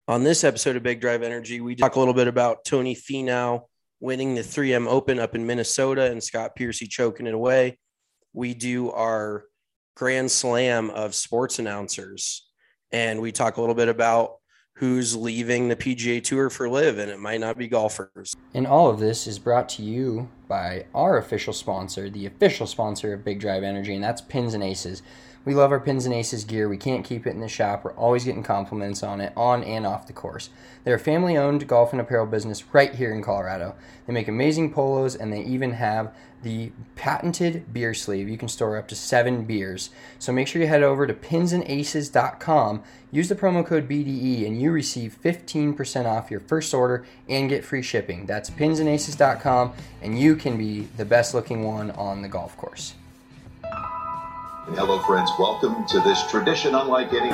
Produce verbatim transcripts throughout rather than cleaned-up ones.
On this episode of Big Drive Energy, we talk a little bit about Tony Finau winning the three M Open up in Minnesota and Scott Piercy choking it away. We do our Grand Slam of sports announcers, and we talk a little bit about who's leaving the P G A Tour for LIV, and it might not be golfers. And all of this is brought to you by our official sponsor, the official sponsor of Big Drive Energy, and that's Pins and Aces. We love our Pins and Aces gear. We can't keep it in the shop. We're always getting compliments on it, on and off the course. They're a family-owned golf and apparel business right here in Colorado. They make amazing polos, and they even have the patented beer sleeve. You can store up to seven beers. So make sure you head over to pins and aces dot com, use the promo code B D E, and you receive fifteen percent off your first order and get free shipping. That's pins and aces dot com, and you can be the best-looking one on the golf course. Hello, friends. Welcome to this tradition unlike any.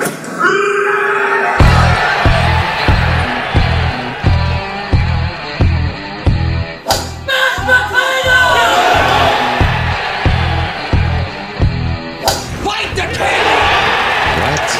Fight the king! What?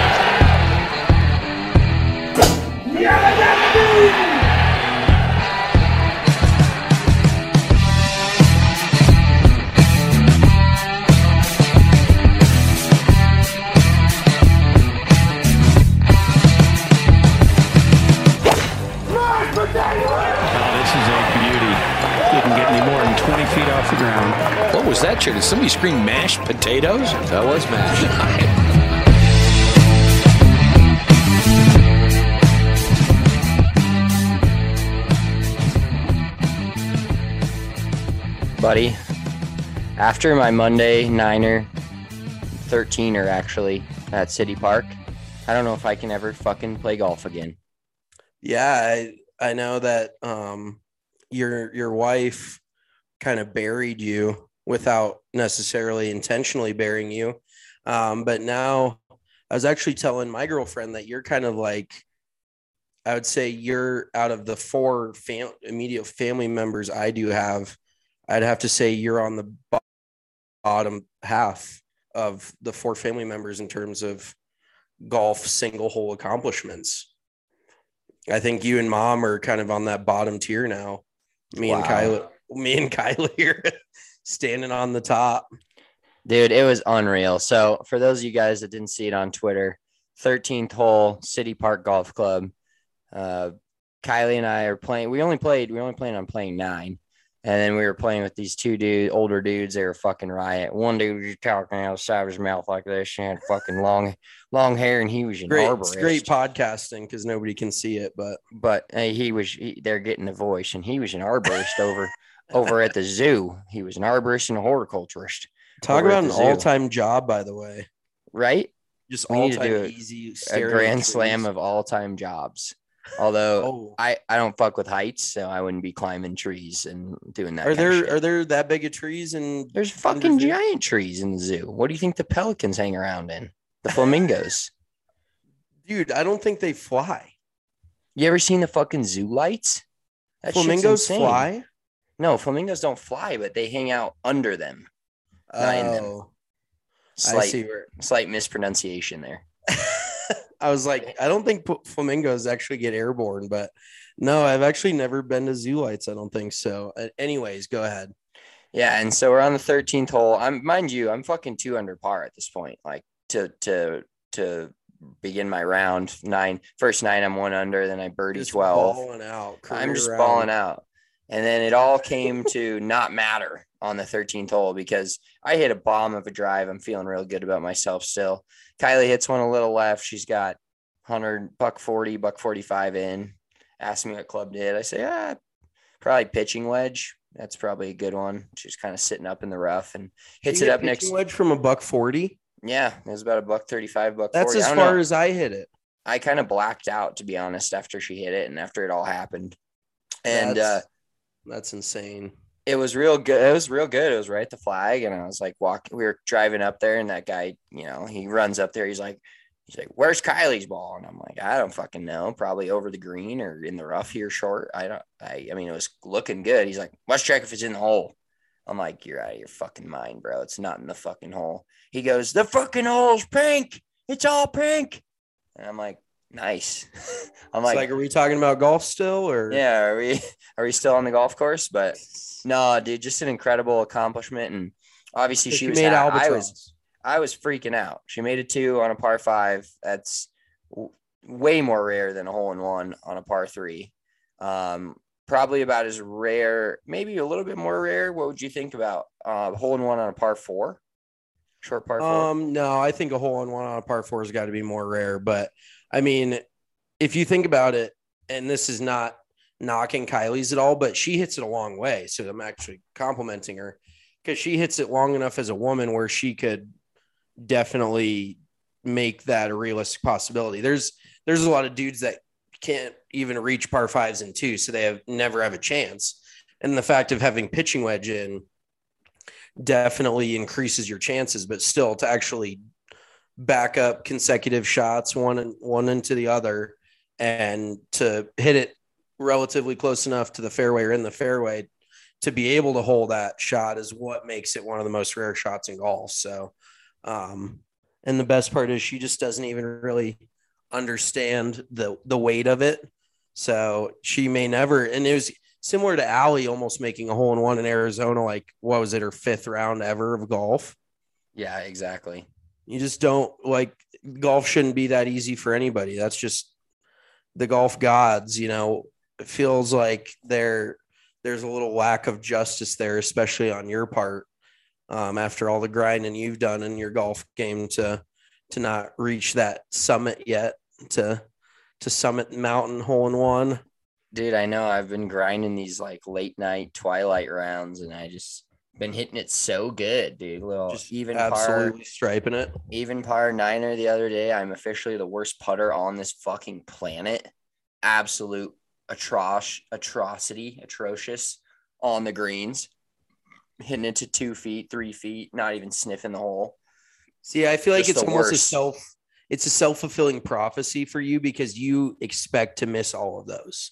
Feet off the ground. What was that, Chair? Did somebody scream mashed potatoes? That was mashed. Buddy, after my Monday Niner thirteener actually at City Park, I don't know if I can ever fucking play golf again. Yeah, I, I know that um, your your wife kind of buried you without necessarily intentionally burying you. Um, but now I was actually telling my girlfriend that you're kind of like, I would say you're out of the four fam- immediate family members I do have, I'd have to say you're on the bottom half of the four family members in terms of golf single hole accomplishments. I think you and mom are kind of on that bottom tier now. Me wow. and Kylie. Me and Kylie are standing on the top. Dude, it was unreal. So for those of you guys that didn't see it on Twitter, thirteenth hole, City Park Golf Club. Uh, Kylie and I are playing. We only played, we only planned on playing nine. And then we were playing with these two dude, older dudes. They were fucking riot. One dude was just talking out of the side of his mouth like this. He had fucking long, long hair, and he was an great, arborist. It's great podcasting because nobody can see it, but but hey, he was. He, they're getting the voice, and he was an arborist over. Over at the zoo. He was an arborist and a horticulturist. Talk about an all-time job, by the way. Right? Just we all-time need to do easy. A grand slam of all-time jobs. Although oh. I, I don't fuck with heights, so I wouldn't be climbing trees and doing that. Are kind there of shit. Are there that big of trees? And there's fucking giant trees in the zoo. What do you think the pelicans hang around in? The flamingos. Dude, I don't think they fly. You ever seen the fucking zoo lights? That flamingos fly? No, flamingos don't fly, but they hang out under them. Not oh, in them. Slight, I see where slight mispronunciation there. I was like, I don't think flamingos actually get airborne, but no, I've actually never been to zoo lights. I don't think so. Anyways, go ahead. Yeah, and so we're on the thirteenth hole. I'm, mind you, I'm fucking two under par at this point. Like to to to begin my round nine, first nine, I'm one under. Then I birdie just twelve. Balling out. I'm just round. balling out. And then it all came to not matter on the thirteenth hole because I hit a bomb of a drive. I'm feeling real good about myself still. Kylie hits one a little left. She's got one hundred, buck forty, buck forty-five in. Asked me what club did. I say, ah, probably pitching wedge. That's probably a good one. She's kind of sitting up in the rough and hits it up next. Wedge from a buck forty? Yeah, it was about a buck thirty-five, buck That's forty. as far know. as I hit it. I kind of blacked out, to be honest, after she hit it and after it all happened. And that's, uh, that's insane. It was real good. It was real good. It was right at the flag. And I was like, walking, we were driving up there and that guy, you know, he runs up there. He's like, he's like, where's Kylie's ball? And I'm like, I don't fucking know. Probably over the green or in the rough here short. I don't, I, I mean, it was looking good. He's like, let's check if it's in the hole. I'm like, you're out of your fucking mind, bro. It's not in the fucking hole. He goes, the fucking hole's pink. It's all pink. And I'm like, Nice. I'm It's like, like, are we talking about golf still, or yeah, are we are we still on the golf course? But no, dude, just an incredible accomplishment. And obviously So she she was made ha- I was albatross? I was freaking out. She made a two on a par five. That's w- way more rare than a hole in one on a par three. Um, probably about as rare, maybe a little bit more rare. What would you think about uh, hole in one on a par four? Short par four? Um, no, I think a hole in one on a par four has got to be more rare. But I mean, if you think about it, and this is not knocking Kylie's at all, but she hits it a long way. So I'm actually complimenting her because she hits it long enough as a woman where she could definitely make that a realistic possibility. There's there's a lot of dudes that can't even reach par fives and two, so they have never have a chance. And the fact of having pitching wedge in definitely increases your chances, but still to actually back up consecutive shots, one and one into the other, and to hit it relatively close enough to the fairway or in the fairway to be able to hold that shot is what makes it one of the most rare shots in golf. So, um, and the best part is she just doesn't even really understand the the weight of it. So she may never, and it was similar to Allie almost making a hole in one in Arizona, like what was it, her fifth round ever of golf. Yeah, exactly. You just don't like golf shouldn't be that easy for anybody. That's just the golf gods, you know. It feels like there there's a little lack of justice there, especially on your part, um, after all the grinding you've done in your golf game to to not reach that summit yet, to to summit mountain hole in one. Dude, I know I've been grinding these like late night twilight rounds, and I just been hitting it so good, dude. Little Just even absolutely par, striping it. even par niner the other day. I'm officially the worst putter on this fucking planet. Absolute atroc atrocity, atrocious on the greens, hitting it to two feet, three feet, not even sniffing the hole. See, I feel like Just it's the almost a worst. self it's a self-fulfilling prophecy for you because you expect to miss all of those.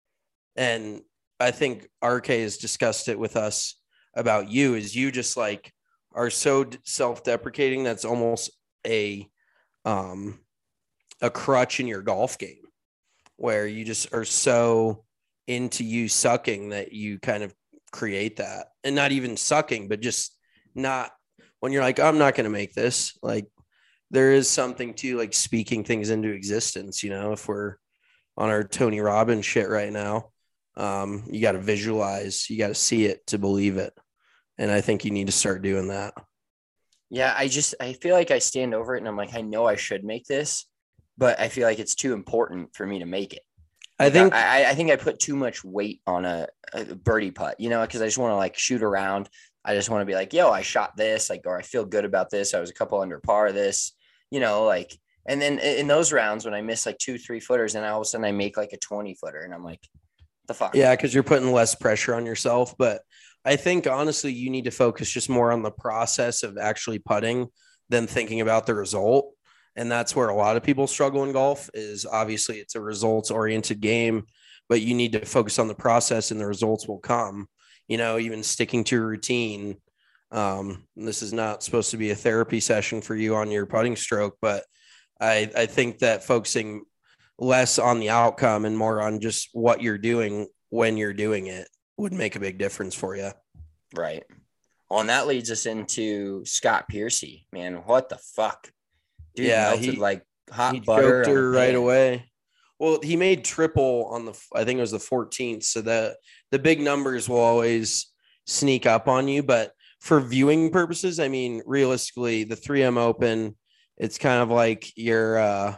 And I think R K has discussed it with us about you is you just like are so self-deprecating that's almost a um a crutch in your golf game where you just are so into you sucking that you kind of create that. And not even sucking, but just not when you're like, I'm not going to make this. Like there is something to like speaking things into existence, you know, if we're on our Tony Robbins shit right now. Um, you got to visualize, you got to see it to believe it. And I think you need to start doing that. Yeah, I just I feel like I stand over it and I'm like, I know I should make this, but I feel like it's too important for me to make it. I Like, think I, I think I put too much weight on a, a birdie putt, you know, because I just want to like shoot around. I just want to be like, yo, I shot this, like, or I feel good about this. I was a couple under par this, you know, like, and then in those rounds when I miss like two, three footers, and all of a sudden I make like a twenty footer, and I'm like, the fuck? yeah, because you're putting less pressure on yourself. But I think honestly, you need to focus just more on the process of actually putting than thinking about the result. And that's where a lot of people struggle in golf is obviously it's a results oriented game, but you need to focus on the process and the results will come, you know, even sticking to your routine. Um, this is not supposed to be a therapy session for you on your putting stroke, but I, I think that focusing less on the outcome and more on just what you're doing when you're doing it would make a big difference for you. Right. Well, and that leads us into Scott Piercy, man. What the fuck? Dude, Yeah, melted he- like hot He butter choked on a her right pan. away. Well, he made triple on the, I think it was the fourteenth. So the, the big numbers will always sneak up on you. But for viewing purposes, I mean, realistically, the three M Open, it's kind of like your, uh,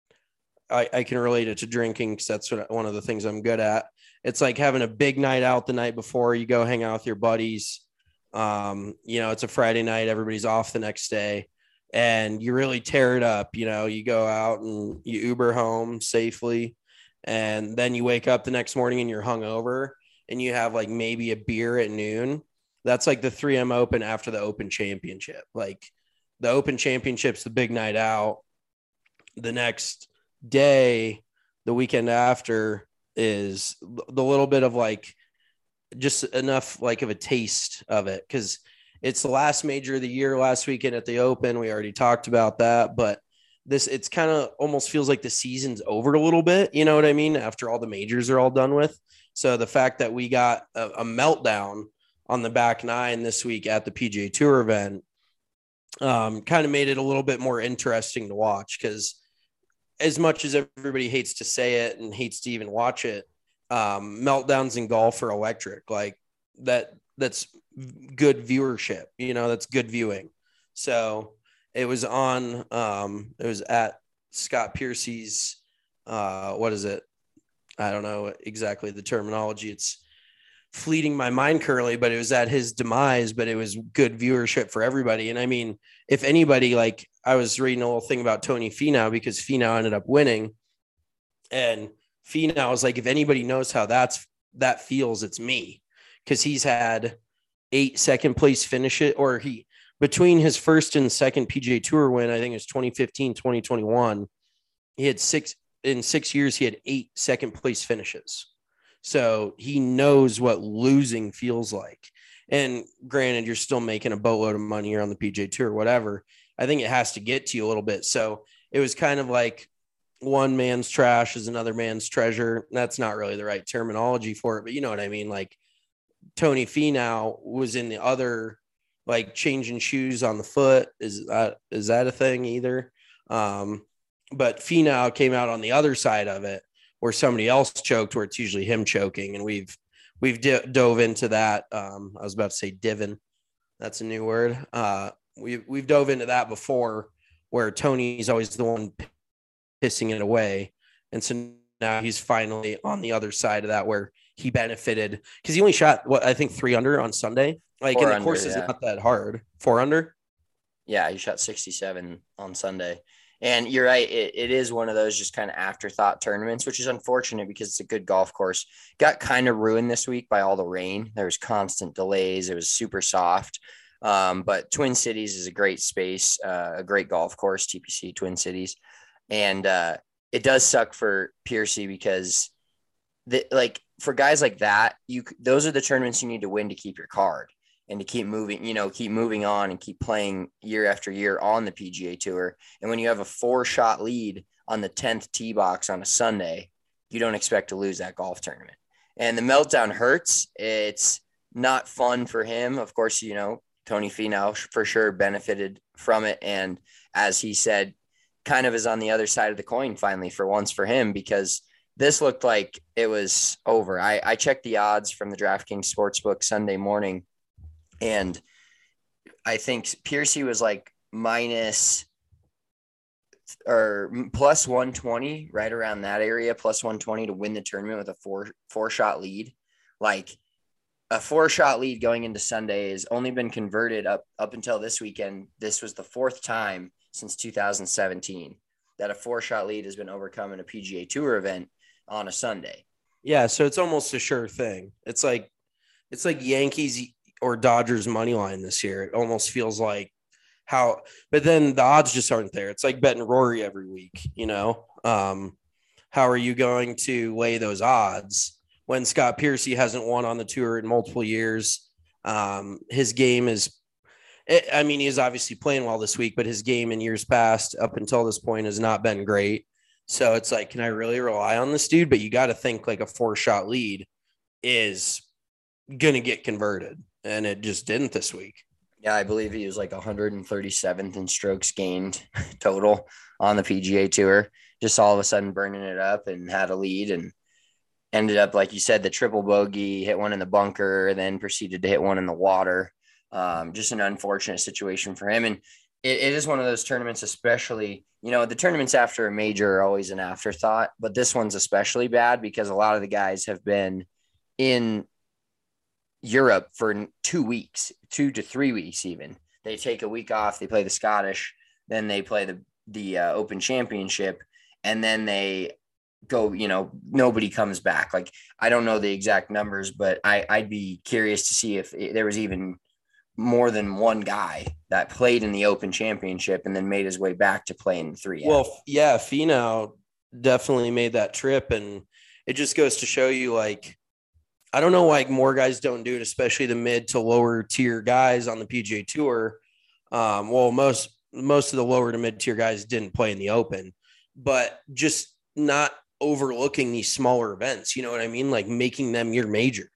I, I can relate it to drinking because that's what, one of the things I'm good at. It's like having a big night out the night before you go hang out with your buddies. Um, you know, it's a Friday night, everybody's off the next day. And you really tear it up, you know, you go out and you Uber home safely. And then you wake up the next morning and you're hungover and you have like maybe a beer at noon. That's like the three M Open after the Open Championship. Like the Open Championship's the big night out. The next day, the weekend after, is the little bit of like just enough like of a taste of it. Cause it's the last major of the year last weekend at the Open. We already talked about that, but this, it's kind of almost feels like the season's over a little bit. You know what I mean? After all the majors are all done with. So the fact that we got a, a meltdown on the back nine this week at the P G A Tour event um, kind of made it a little bit more interesting to watch, because as much as everybody hates to say it and hates to even watch it, um, meltdowns in golf are electric. Like that, that's good viewership, you know, that's good viewing. So it was on, um, it was at Scott Piercy's, uh, what is it? I don't know exactly the terminology. It's fleeting my mind currently, but it was at his demise, but it was good viewership for everybody. And I mean, if anybody, like I was reading a little thing about Tony Finau, because Finau ended up winning, and Finau was like, if anybody knows how that's, that feels, it's me. Cause he's had eight second place finish it, or he, between his first and second P G A Tour win, I think it was twenty fifteen, twenty twenty-one, he had six in six years, he had eight second place finishes. So he knows what losing feels like. And granted, you're still making a boatload of money here on the P G A Tour, whatever. I think it has to get to you a little bit. So it was kind of like one man's trash is another man's treasure. That's not really the right terminology for it, but you know what I mean? Like Tony Finau was in the other, like changing shoes on the foot. Is that, is that a thing either? Um, but Finau came out on the other side of it, where somebody else choked, where it's usually him choking. And we've, we've di- dove into that. Um, I was about to say divin. That's a new word. Uh, we've, we've dove into that before, where Tony's always the one pissing it away. And so now he's finally on the other side of that, where he benefited, because he only shot what I think three under on Sunday. Like, Four in the under, course is yeah. not that hard. Four under. Yeah, he shot sixty-seven on Sunday. And you're right, it, it is one of those just kind of afterthought tournaments, which is unfortunate because it's a good golf course. Got kind of ruined this week by all the rain. There was constant delays. It was super soft. Um, but Twin Cities is a great space, uh, a great golf course, T P C Twin Cities. And uh, it does suck for Piercy because the, like for guys like that, you those are the tournaments you need to win to keep your card and to keep moving, you know, keep moving on and keep playing year after year on the P G A Tour. And when you have a four shot lead on the tenth tee box on a Sunday, you don't expect to lose that golf tournament. And the meltdown hurts. It's not fun for him. Of course, you know, Tony Finau for sure benefited from it. And as he said, kind of is on the other side of the coin finally for once for him, because this looked like it was over. I, I checked the odds from the DraftKings Sportsbook Sunday morning, and I think Piercy was like minus or plus one twenty, right around that area, plus one twenty to win the tournament with a four, four shot lead. Like a four shot lead going into Sunday has only been converted up, up until this weekend. This was the fourth time since two thousand seventeen that a four shot lead has been overcome in a P G A Tour event on a Sunday. Yeah. So it's almost a sure thing. It's like, it's like Yankees or Dodgers money line this year. It almost feels like how, but then the odds just aren't there. It's like betting Rory every week, you know? Um, how are you going to lay those odds when Scott Piercy hasn't won on the tour in multiple years? Um, his game is, I mean, he's obviously playing well this week, but his game in years past up until this point has not been great. So it's like, can I really rely on this dude? But you got to think like a four shot lead is going to get converted. And it just didn't this week. Yeah, I believe he was like one hundred thirty-seventh in strokes gained total on the P G A Tour. Just all of a sudden burning it up and had a lead and ended up, like you said, the triple bogey, hit one in the bunker, then proceeded to hit one in the water. Um, just an unfortunate situation for him. And it, it is one of those tournaments, especially, you know, the tournaments after a major are always an afterthought, but this one's especially bad because a lot of the guys have been in Europe for two weeks, two to three weeks even. They take a week off, they play the Scottish, then they play the, the uh, Open Championship, and then they go, you know, nobody comes back. Like, I don't know the exact numbers, but I, I'd be curious to see if there was even more than one guy that played in the Open Championship and then made his way back to play in three. Well, yeah, Finau definitely made that trip, and it just goes to show you, like, I don't know why more guys don't do it, especially the mid to lower tier guys on the P G A Tour. Um, well, most most of the lower to mid tier guys didn't play in the Open, but just not overlooking these smaller events. You know what I mean? Like making them your major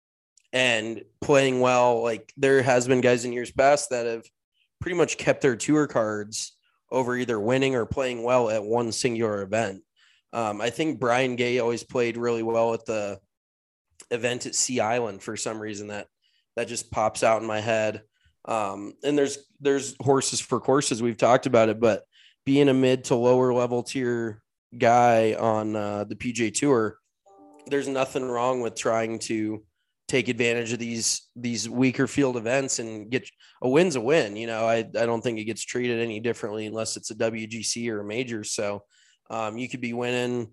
and playing well. Like there has been guys in years past that have pretty much kept their tour cards over either winning or playing well at one singular event. Um, I think Brian Gay always played really well at the event at Sea Island for some reason. That that just pops out in my head. Um, and there's there's horses for courses. We've talked about it, but being a mid to lower level tier guy on uh, the P G A Tour, there's nothing wrong with trying to take advantage of these these weaker field events and get a win's a win. You know, I, I don't think it gets treated any differently unless it's a W G C or a major. So um, you could be winning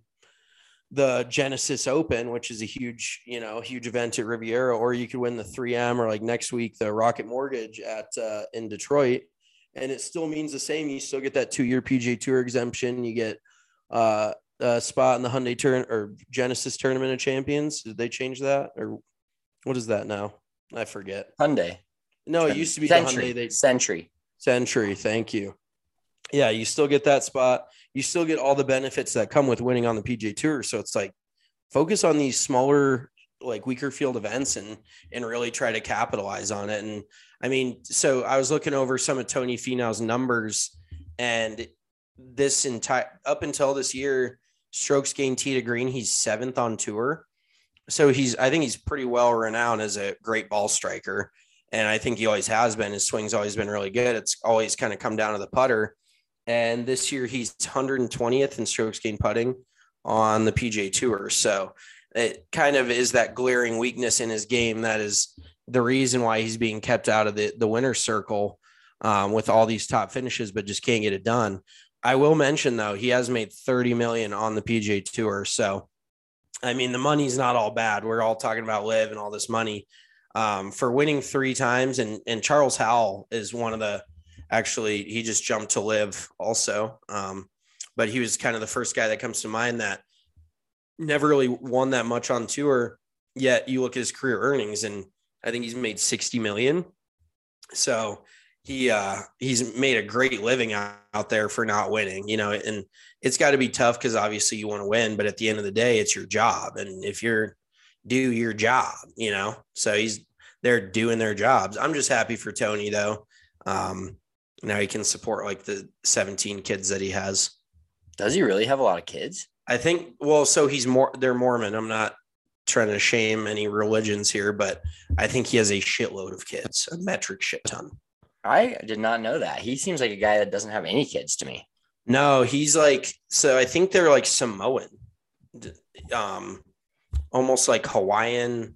the Genesis Open, which is a huge, you know, huge event at Riviera, or you could win the three M or like next week, the Rocket Mortgage at uh, in Detroit. And it still means the same. You still get that two-year P G A Tour exemption. You get uh, a spot in the Hyundai turn or Genesis Tournament of Champions. Did they change that? Or what is that now? I forget. Hyundai. No, it used to be Century. the Hyundai. They, Century. Century. Thank you. Yeah, you still get that spot. You still get all the benefits that come with winning on the P G A Tour. So it's like focus on these smaller, like weaker field events and and really try to capitalize on it. And I mean, so I was looking over some of Tony Finau's numbers, and this entire up until this year, strokes gained tee to green, he's seventh on tour. So he's, I think he's pretty well renowned as a great ball striker. And I think he always has been. His swing's always been really good. It's always kind of come down to the putter. And this year he's one hundred twentieth in strokes gained putting on the P G A Tour. So it kind of is that glaring weakness in his game that is the reason why he's being kept out of the, the winner's circle um, with all these top finishes, but just can't get it done. I will mention, though, he has made thirty million dollars on the P G A Tour. So, I mean, the money's not all bad. We're all talking about live and all this money um, for winning three times. And, and Charles Howell is one of the, actually, he just jumped to live also. Um, but he was kind of the first guy that comes to mind that never really won that much on tour. Yet you look at his career earnings, and I think he's made sixty million. So he uh, he's made a great living out, out there for not winning, you know, and it's got to be tough because obviously you want to win, but at the end of the day, it's your job. And if you're do your job, you know, so he's they're doing their jobs. I'm just happy for Tony, though. Um, now he can support like the seventeen kids that he has. Does he really have a lot of kids? I think, well, so he's more, they're Mormon. I'm not trying to shame any religions here, but I think he has a shitload of kids, a metric shit ton. I did not know that. He seems like a guy that doesn't have any kids to me. No, he's like, so I think they're like Samoan, um, almost like Hawaiian.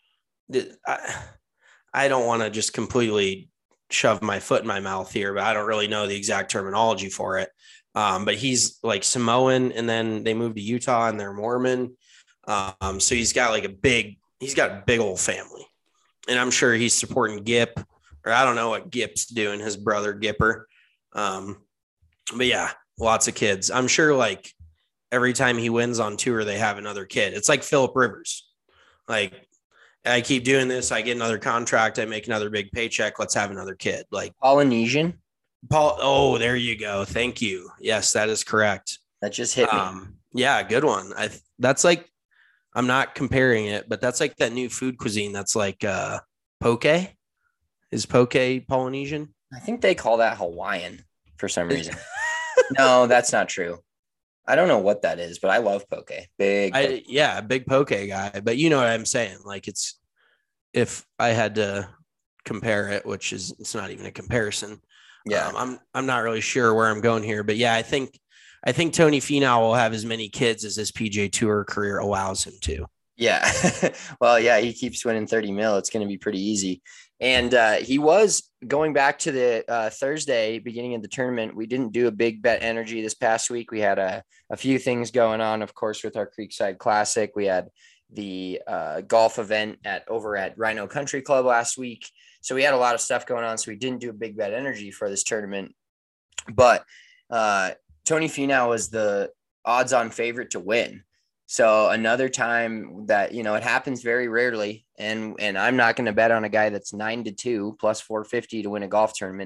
I, I don't want to just completely shove my foot in my mouth here, but I don't really know the exact terminology for it. Um, but he's like Samoan, and then they moved to Utah and they're Mormon. Um, so he's got like a big, he's got a big old family, and I'm sure he's supporting Gip, or I don't know what Gip's doing, his brother Gipper. Um, but yeah, lots of kids. I'm sure like every time he wins on tour, they have another kid. It's like Phillip Rivers. Like, I keep doing this, I get another contract, I make another big paycheck. Let's have another kid. Like Polynesian. Paul. Oh, there you go. Thank you. Yes, that is correct. That just hit me. Um, yeah, good one. I that's like, I'm not comparing it, but that's like that new food cuisine. That's like uh, poke. Is poke Polynesian? I think they call that Hawaiian for some reason. No, that's not true. I don't know what that is, but I love poke. Big. Poke. I, yeah, big poke guy. But you know what I'm saying? Like it's, if I had to compare it, which is, it's not even a comparison. Yeah. Um, I'm, I'm not really sure where I'm going here, but yeah, I think, I think Tony Finau will have as many kids as his P G A Tour career allows him to. Yeah. Well, yeah, he keeps winning thirty mil. It's going to be pretty easy. And uh, he was going back to the uh, Thursday beginning of the tournament. We didn't do a big bet energy this past week. We had a, a few things going on, of course, with our Creekside Classic. We had the uh, golf event at over at Rhino Country Club last week. So we had a lot of stuff going on. So we didn't do a big bet energy for this tournament. But uh, Tony Finau was the odds on favorite to win. So another time that, you know, it happens very rarely. And, and I'm not going to bet on a guy that's nine to two plus four fifty to win a golf tournament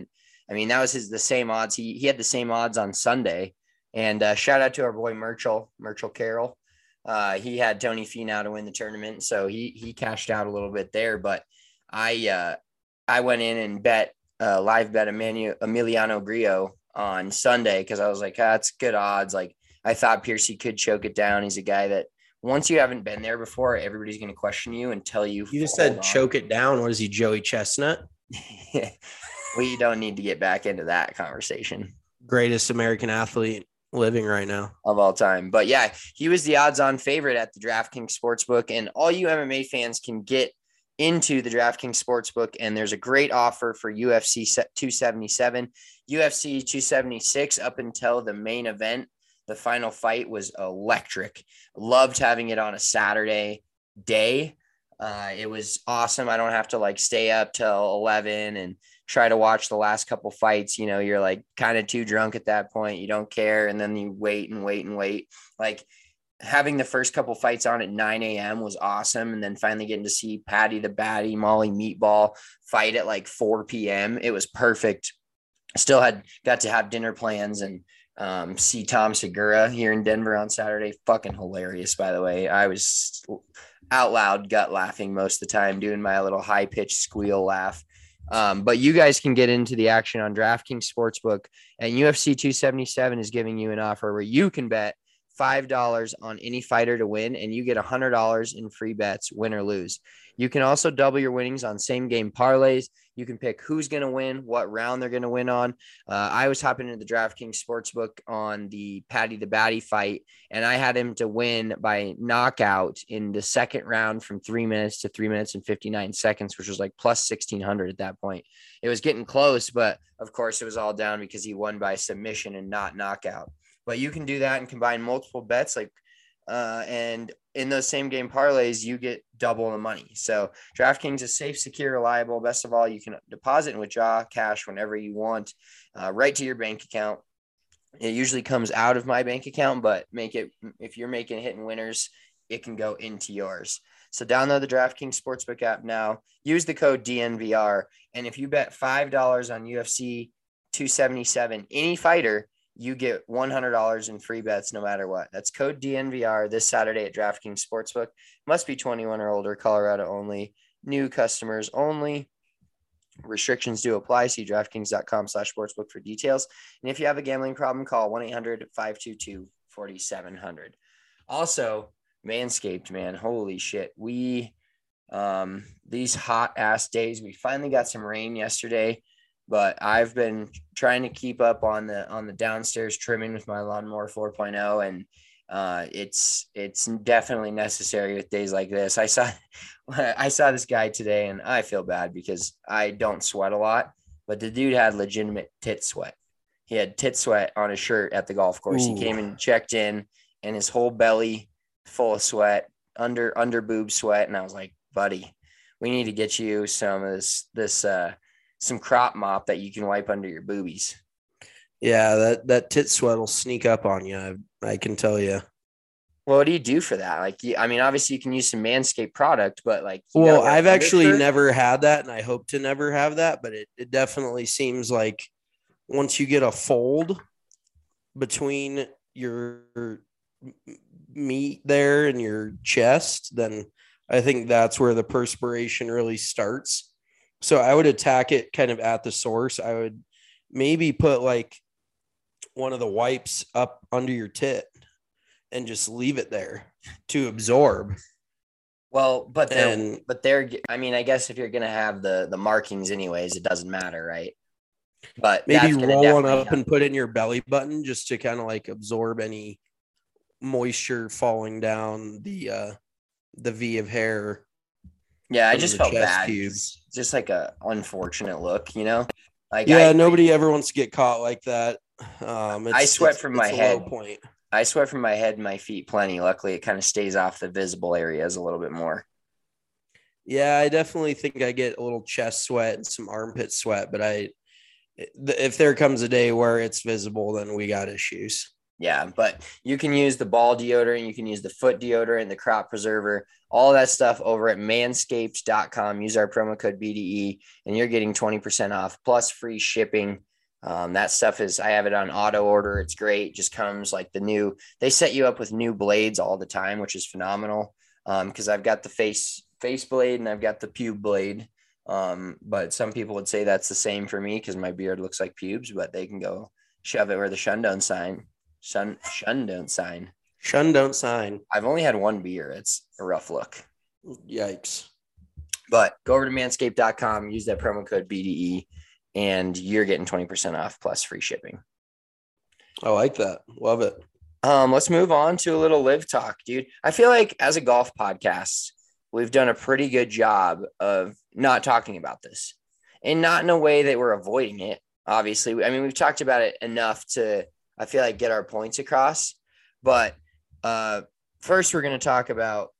I mean, that was his the same odds. He he had the same odds on Sunday. And uh, shout out to our boy Merchel, Merchel Carroll. Uh, he had Tony Finau to win the tournament, so he he cashed out a little bit there. But I uh, I went in and bet uh, live bet Emanu- Emiliano Grillo on Sunday because I was like, ah, that's good odds. Like I thought Piercy could choke it down. He's a guy that once you haven't been there before, everybody's going to question you and tell you. You just said choke it down. What is he, Joey Chestnut? We don't need to get back into that conversation. Greatest American athlete living right now of all time. But yeah, he was the odds-on favorite at the DraftKings Sportsbook, and all you M M A fans can get into the DraftKings Sportsbook, and there's a great offer for U F C two seventy-seven, U F C two seventy-six up until the main event. The final fight was electric. Loved having it on a Saturday day. Uh, it was awesome. I don't have to like stay up till eleven and try to watch the last couple fights. You know, you're like kind of too drunk at that point. You don't care. And then you wait and wait and wait. Like having the first couple fights on at nine a.m. was awesome. And then finally getting to see Patty the Batty, Molly Meatball fight at like four p.m. It was perfect. Still had got to have dinner plans and um, see Tom Segura here in Denver on Saturday. Fucking hilarious, by the way. I was out loud gut laughing most of the time, doing my little high pitched squeal laugh. Um, but you guys can get into the action on DraftKings Sportsbook, and U F C two seventy-seven is giving you an offer where you can bet five dollars on any fighter to win, and you get one hundred dollars in free bets, win or lose. You can also double your winnings on same game parlays. You can pick who's going to win, what round they're going to win on. Uh, I was hopping into the DraftKings Sportsbook on the Patty the Batty fight, and I had him to win by knockout in the second round from three minutes to three minutes and fifty-nine seconds, which was like plus sixteen hundred at that point. It was getting close, but of course it was all down because he won by submission and not knockout. But you can do that and combine multiple bets, like, uh, and in those same game parlays, you get double the money. So DraftKings is safe, secure, reliable. Best of all, you can deposit and withdraw cash whenever you want, uh, right to your bank account. It usually comes out of my bank account, but make it, if you're making hit and winners, it can go into yours. So download the DraftKings Sportsbook app now. Use the code D N V R. And if you bet five dollars on U F C two seventy-seven, any fighter, you get one hundred dollars in free bets no matter what. That's code D N V R this Saturday at DraftKings Sportsbook. Must be twenty-one or older, Colorado only. New customers only. Restrictions do apply. See DraftKings.com slash sportsbook for details. And if you have a gambling problem, call one eight hundred five two two four seven zero zero. Also, Manscaped, man. Holy shit. We, um, these hot ass days, we finally got some rain yesterday. But I've been trying to keep up on the on the downstairs trimming with my lawnmower four point oh, and uh, it's it's definitely necessary with days like this. I saw I saw this guy today, and I feel bad because I don't sweat a lot, but the dude had legitimate tit sweat. He had tit sweat on his shirt at the golf course. Ooh. He came and checked in, and his whole belly full of sweat, under under boob sweat, and I was like, buddy, we need to get you some of this this. Uh, some crop mop that you can wipe under your boobies. Yeah, that, that tit sweat will sneak up on you. I, I can tell you. Well, what do you do for that? Like, I mean, obviously you can use some Manscaped product, but like, well, I've actually shirt? never had that, and I hope to never have that, but it, it definitely seems like once you get a fold between your meat there and your chest, then I think that's where the perspiration really starts. So I would attack it kind of at the source. I would maybe put like one of the wipes up under your tit and just leave it there to absorb. Well, but they're, and, but they're, I mean, I guess if you're going to have the, the markings anyways, it doesn't matter. Right. But maybe roll one up help. And put it in your belly button just to kind of like absorb any moisture falling down the, uh, the V of hair. Yeah, I just felt bad. Cubes. Just like a unfortunate look, you know. Like yeah, I, nobody ever wants to get caught like that. Um, it's, I sweat it's, from it's my head. Point. I sweat from my head and my feet plenty. Luckily, it kind of stays off the visible areas a little bit more. Yeah, I definitely think I get a little chest sweat and some armpit sweat, but I, if there comes a day where it's visible, then we got issues. Yeah, but you can use the ball deodorant, you can use the foot deodorant, the crop preserver, all that stuff over at manscaped dot com. Use our promo code B D E, and you're getting twenty percent off plus free shipping. Um, that stuff is, I have it on auto order. It's great. Just comes like the new, they set you up with new blades all the time, which is phenomenal. Um, cause I've got the face, face blade and I've got the pube blade. Um, but some people would say that's the same for me because my beard looks like pubes, but they can go shove it where the shun don't sign. Shun, shun don't sign. Shun don't sign. I've only had one beer. It's a rough look. Yikes. But go over to manscaped dot com, use that promo code B D E, and you're getting twenty percent off plus free shipping. I like that. Love it. Um, let's move on to a little live talk, dude. I feel like as a golf podcast, we've done a pretty good job of not talking about this, and not in a way that we're avoiding it. Obviously, I mean, we've talked about it enough to, I feel like, get our points across. But uh, first, we're going to talk about,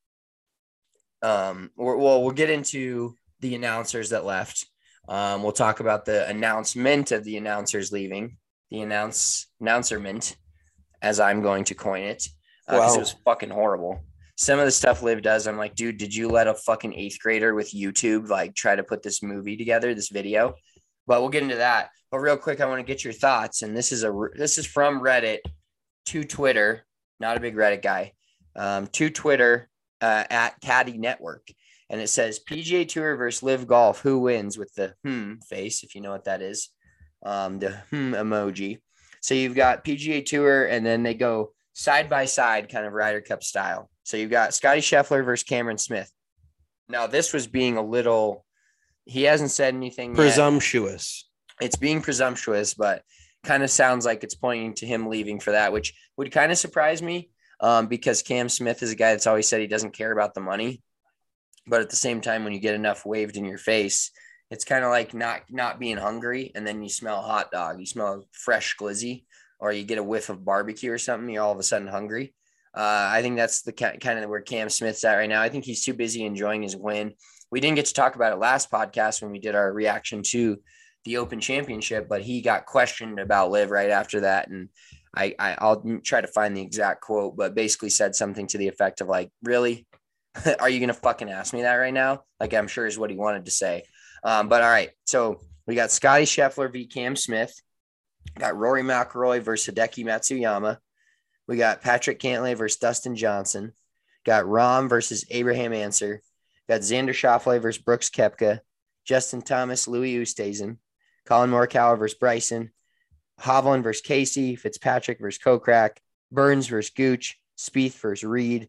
um, we're, well, we'll get into the announcers that left. Um, we'll talk about the announcement of the announcers leaving, the announce announcerment, as I'm going to coin it, because uh, it was fucking horrible. Some of the stuff Liv does, I'm like, dude, did you let a fucking eighth grader with YouTube like try to put this movie together, this video? But we'll get into that. But real quick, I want to get your thoughts. And this is a this is from Reddit to Twitter. Not a big Reddit guy. Um, to Twitter uh, at Caddy Network, and it says P G A Tour versus Live Golf. Who wins? With the hmm face, if you know what that is, um, the hmm emoji. So you've got P G A Tour, and then they go side by side, kind of Ryder Cup style. So you've got Scotty Scheffler versus Cameron Smith. Now, this was being a little, he hasn't said anything presumptuous. Yet. It's being presumptuous, but kind of sounds like it's pointing to him leaving for that, which would kind of surprise me um, because Cam Smith is a guy that's always said he doesn't care about the money. But at the same time, when you get enough waved in your face, it's kind of like not, not being hungry. And then you smell a hot dog, you smell fresh glizzy, or you get a whiff of barbecue or something. You're all of a sudden hungry. Uh, I think that's the kind of where Cam Smith's at right now. I think he's too busy enjoying his win. We didn't get to talk about it last podcast when we did our reaction to the Open Championship, but he got questioned about Liv right after that. And I, I I'll try to find the exact quote, but basically said something to the effect of like, really, are you going to fucking ask me that right now? Like, I'm sure is what he wanted to say. Um, but all right. So we got Scotty Scheffler v Cam Smith, got Rory McIlroy versus Hideki Matsuyama. We got Patrick Cantlay versus Dustin Johnson. Got Rahm versus Abraham Ancer. Got Xander Schauffele versus Brooks Koepka. Justin Thomas, Louis Oosthuizen. Colin Morikawa versus Bryson. Hovland versus Casey. Fitzpatrick versus Kokrak. Burns versus Gooch. Spieth versus Reed.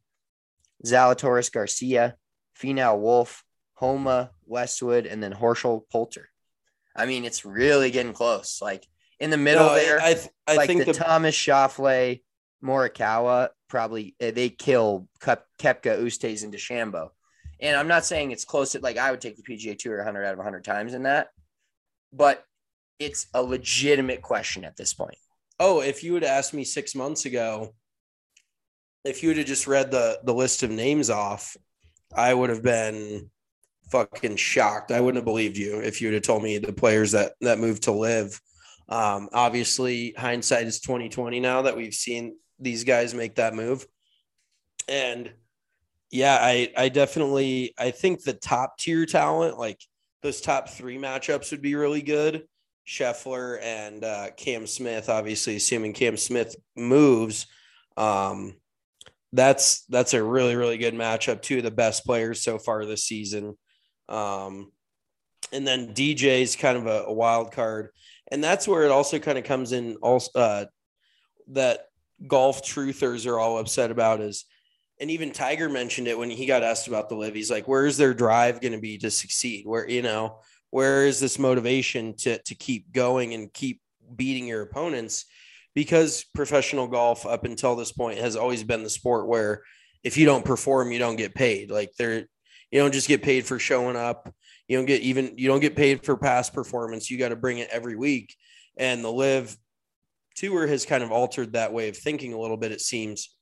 Zalatoris Garcia. Finau Wolf. Homa, Westwood, and then Horschel Poulter. I mean, it's really getting close. Like in the middle no, there, I, th- I like think the, the Thomas Schauffele, Morikawa, probably they kill Kep- Koepka, Oosthuizen, and DeChambeau. And I'm not saying it's close to, like, I would take the P G A Tour one hundred out of one hundred times in that, but it's a legitimate question at this point. Oh, if you would ask me six months ago, if you would have just read the, the list of names off, I would have been fucking shocked. I wouldn't have believed you if you would have told me the players that, that moved to Live. Um, obviously, hindsight is twenty twenty now that we've seen these guys make that move. And yeah, I, I definitely, I think the top tier talent, like those top three matchups would be really good. Scheffler and uh, Cam Smith, obviously, assuming Cam Smith moves. Um, that's, that's a really, really good matchup. Two of the best players so far this season. Um, and then D J's kind of a, a wild card. And that's where it also kind of comes in also uh, that golf truthers are all upset about is, and even Tiger mentioned it when he got asked about the Liv. He's like, where's their drive going to be to succeed? Where, you know, where is this motivation to, to keep going and keep beating your opponents? Because professional golf up until this point has always been the sport where if you don't perform, you don't get paid. Like they're, you don't just get paid for showing up. You don't get even, you don't get paid for past performance. You got to bring it every week. And the Live Tour has kind of altered that way of thinking a little bit, it seems,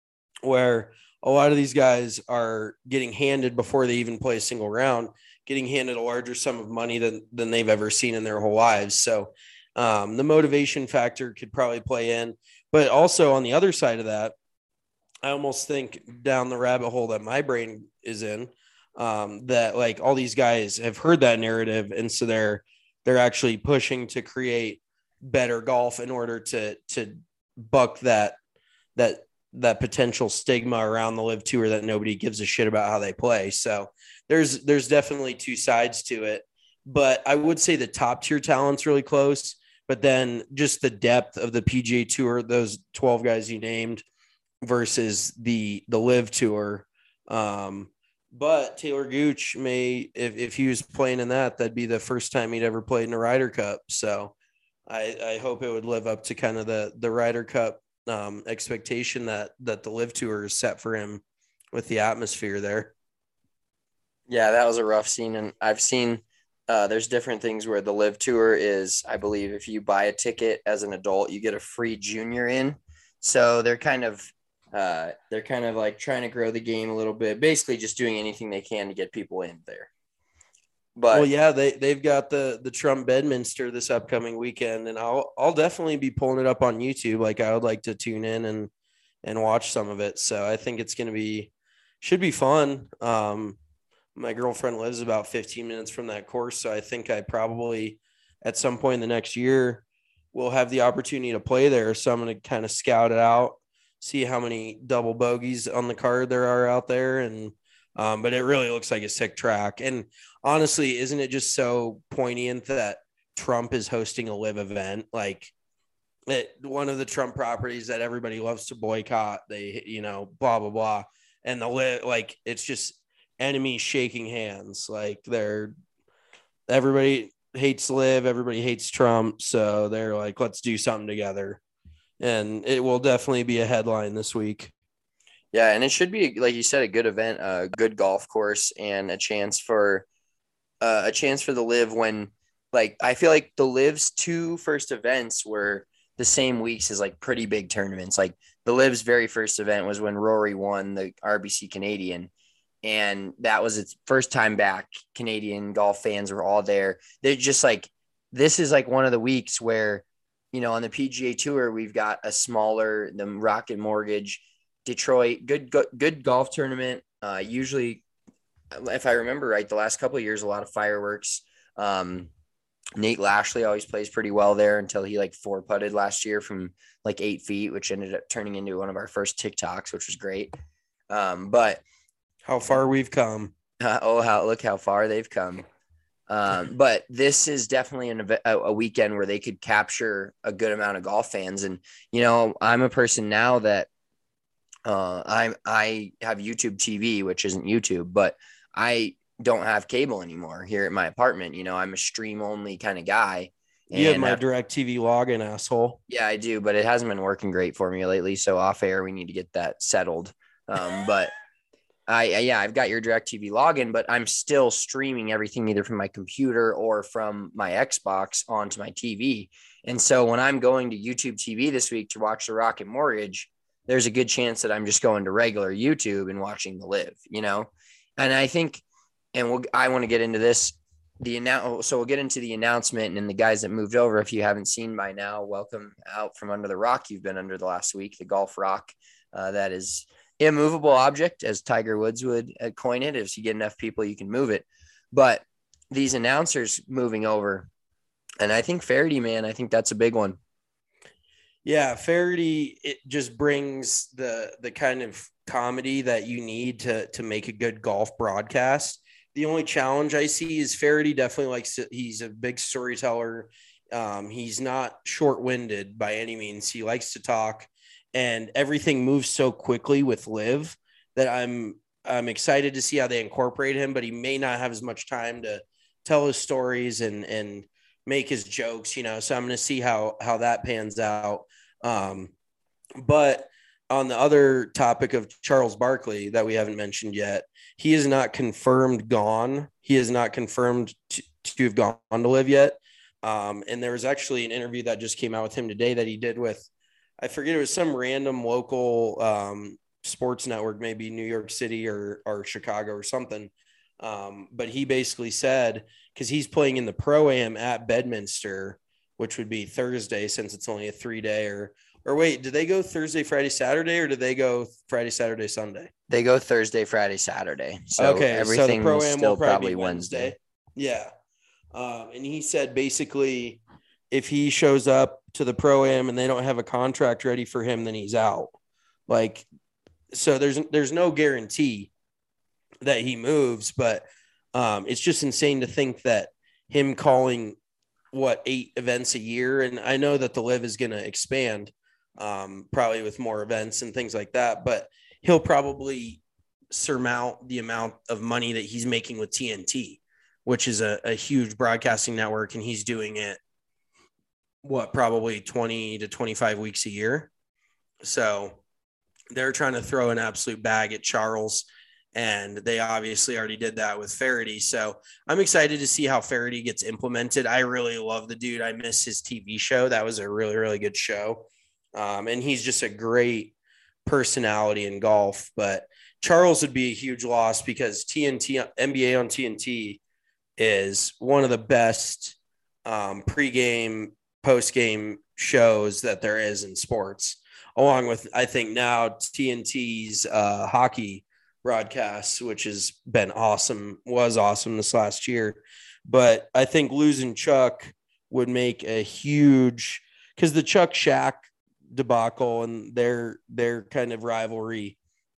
where a lot of these guys are getting handed before they even play a single round, getting handed a larger sum of money than, than they've ever seen in their whole lives. So um, the motivation factor could probably play in, but also on the other side of that, I almost think down the rabbit hole that my brain is in, um, that like all these guys have heard that narrative. And so they're, they're actually pushing to create better golf in order to to buck that that that potential stigma around the Live Tour that nobody gives a shit about how they play. So there's there's definitely two sides to it. But I would say the top tier talent's really close. But then just the depth of the P G A Tour, those twelve guys you named, versus the the Live Tour. Um, but Taylor Gooch may, if, if he was playing in that, that'd be the first time he'd ever played in a Ryder Cup. So I, I hope it would live up to kind of the the Ryder Cup um, expectation that that the Live Tour is set for him with the atmosphere there. Yeah, that was a rough scene, and I've seen uh, there's different things where the Live Tour is, I believe, if you buy a ticket as an adult, you get a free junior in. So they're kind of uh, they're kind of like trying to grow the game a little bit, basically just doing anything they can to get people in there. But well, yeah, they they've got the the Trump Bedminster this upcoming weekend, and I'll I'll definitely be pulling it up on YouTube. Like I would like to tune in and and watch some of it. So I think it's gonna be should be fun. Um, my girlfriend lives about fifteen minutes from that course, so I think I probably at some point in the next year will have the opportunity to play there. So I'm gonna kind of scout it out, see how many double bogeys on the card there are out there, and um, but it really looks like a sick track. And honestly, isn't it just so poignant that Trump is hosting a live event? Like it, one of the Trump properties that everybody loves to boycott, they, you know, blah, blah, blah. And the live, like, it's just enemies shaking hands. Like they're, everybody hates live, everybody hates Trump. So they're like, let's do something together. And it will definitely be a headline this week. Yeah, and it should be, like you said, a good event, a good golf course, and a chance for uh, a chance for the Live when, like, I feel like the Live's two first events were the same weeks as like pretty big tournaments. Like the Live's very first event was when Rory won the R B C Canadian, and that was its first time back. Canadian golf fans were all there. They're just like, this is like one of the weeks where, you know, on the P G A Tour, we've got a smaller, the Rocket Mortgage, Detroit, good, good, good golf tournament. Uh, usually, if I remember right, the last couple of years, a lot of fireworks. Um, Nate Lashley always plays pretty well there until he like four putted last year from like eight feet, which ended up turning into one of our first TikToks, which was great. Um, but how far we've come. Uh, oh, how look how far they've come. Um, but this is definitely an, a, a weekend where they could capture a good amount of golf fans. And, you know, I'm a person now that uh, I, I have YouTube T V, which isn't YouTube, but I don't have cable anymore here at my apartment. You know, I'm a stream only kind of guy. You have my DirecTV login, asshole. Yeah, I do, but it hasn't been working great for me lately. So off air, we need to get that settled. Um, but I, yeah, I've got your DirecTV login, but I'm still streaming everything either from my computer or from my Xbox onto my T V. And so when I'm going to YouTube T V this week to watch the Rocket Mortgage, there's a good chance that I'm just going to regular YouTube and watching the Live, you know? And I think, and we'll, I want to get into this, the annou- so we'll get into the announcement and the guys that moved over. If you haven't seen by now, welcome out from under the rock you've been under the last week, the Golf Rock. Uh, that is immovable object, as Tiger Woods would coin it. If you get enough people, you can move it. But these announcers moving over, and I think Faraday, man, I think that's a big one. Yeah, Faraday, it just brings the the kind of comedy that you need to to make a good golf broadcast. The only challenge I see is Faraday definitely likes to, he's a big storyteller. Um, he's not short-winded by any means. He likes to talk, and everything moves so quickly with Live that I'm I'm excited to see how they incorporate him, but he may not have as much time to tell his stories and and make his jokes, you know. So I'm going to see how how that pans out. Um, but on the other topic of Charles Barkley that we haven't mentioned yet, he is not confirmed gone. He is not confirmed to, to have gone to Live yet. Um, and there was actually an interview that just came out with him today that he did with, I forget, it was some random local um, sports network, maybe New York City or, or Chicago or something. Um, but he basically said, because he's playing in the Pro-Am at Bedminster, which would be Thursday since it's only a three day or, or wait, did they go Thursday, Friday, Saturday, or did they go Friday, Saturday, Sunday? They go Thursday, Friday, Saturday. So okay, everything so the Pro-Am still will probably, probably be Wednesday. Wednesday. Yeah. Um, and he said basically if he shows up to the Pro-Am and they don't have a contract ready for him, then he's out. Like, so there's there's no guarantee that he moves, but um, it's just insane to think that him calling what eight events a year, and I know that the Live is going to expand, um, probably with more events and things like that, but he'll probably surmount the amount of money that he's making with T N T, which is a, a huge broadcasting network, and he's doing it what, probably twenty to twenty-five weeks a year. So they're trying to throw an absolute bag at Charles, and they obviously already did that with Faraday. So I'm excited to see how Faraday gets implemented. I really love the dude. I miss his T V show. That was a really, really good show. Um, and he's just a great personality in golf. But Charles would be a huge loss because T N T, N B A on T N T is one of the best um, pregame, postgame shows that there is in sports, along with, I think now T N T's uh, hockey broadcasts, which has been awesome, was awesome this last year. But I think losing Chuck would make a huge, because the Chuck Shaq debacle and their their kind of rivalry,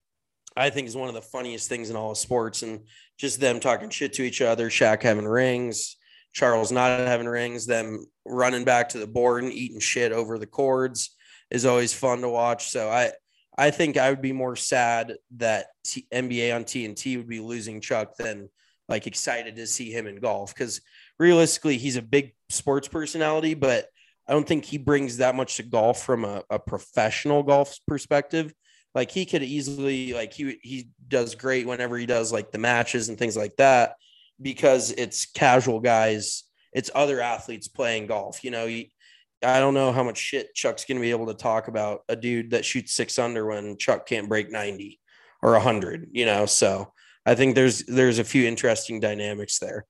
I think is one of the funniest things in all of sports. And just them talking shit to each other, Shaq having rings, Charles not having rings, them running back to the board and eating shit over the cords is always fun to watch. So I, I think I would be more sad that T- N B A on T N T would be losing Chuck than like excited to see him in golf. Because realistically, he's a big sports personality, but I don't think he brings that much to golf from a, a professional golf perspective. Like he could easily, like he he does great whenever he does like the matches and things like that, because it's casual guys, it's other athletes playing golf. You know, he, I don't know how much shit Chuck's going to be able to talk about a dude that shoots six under when Chuck can't break ninety or a hundred, you know? So I think there's, there's a few interesting dynamics there.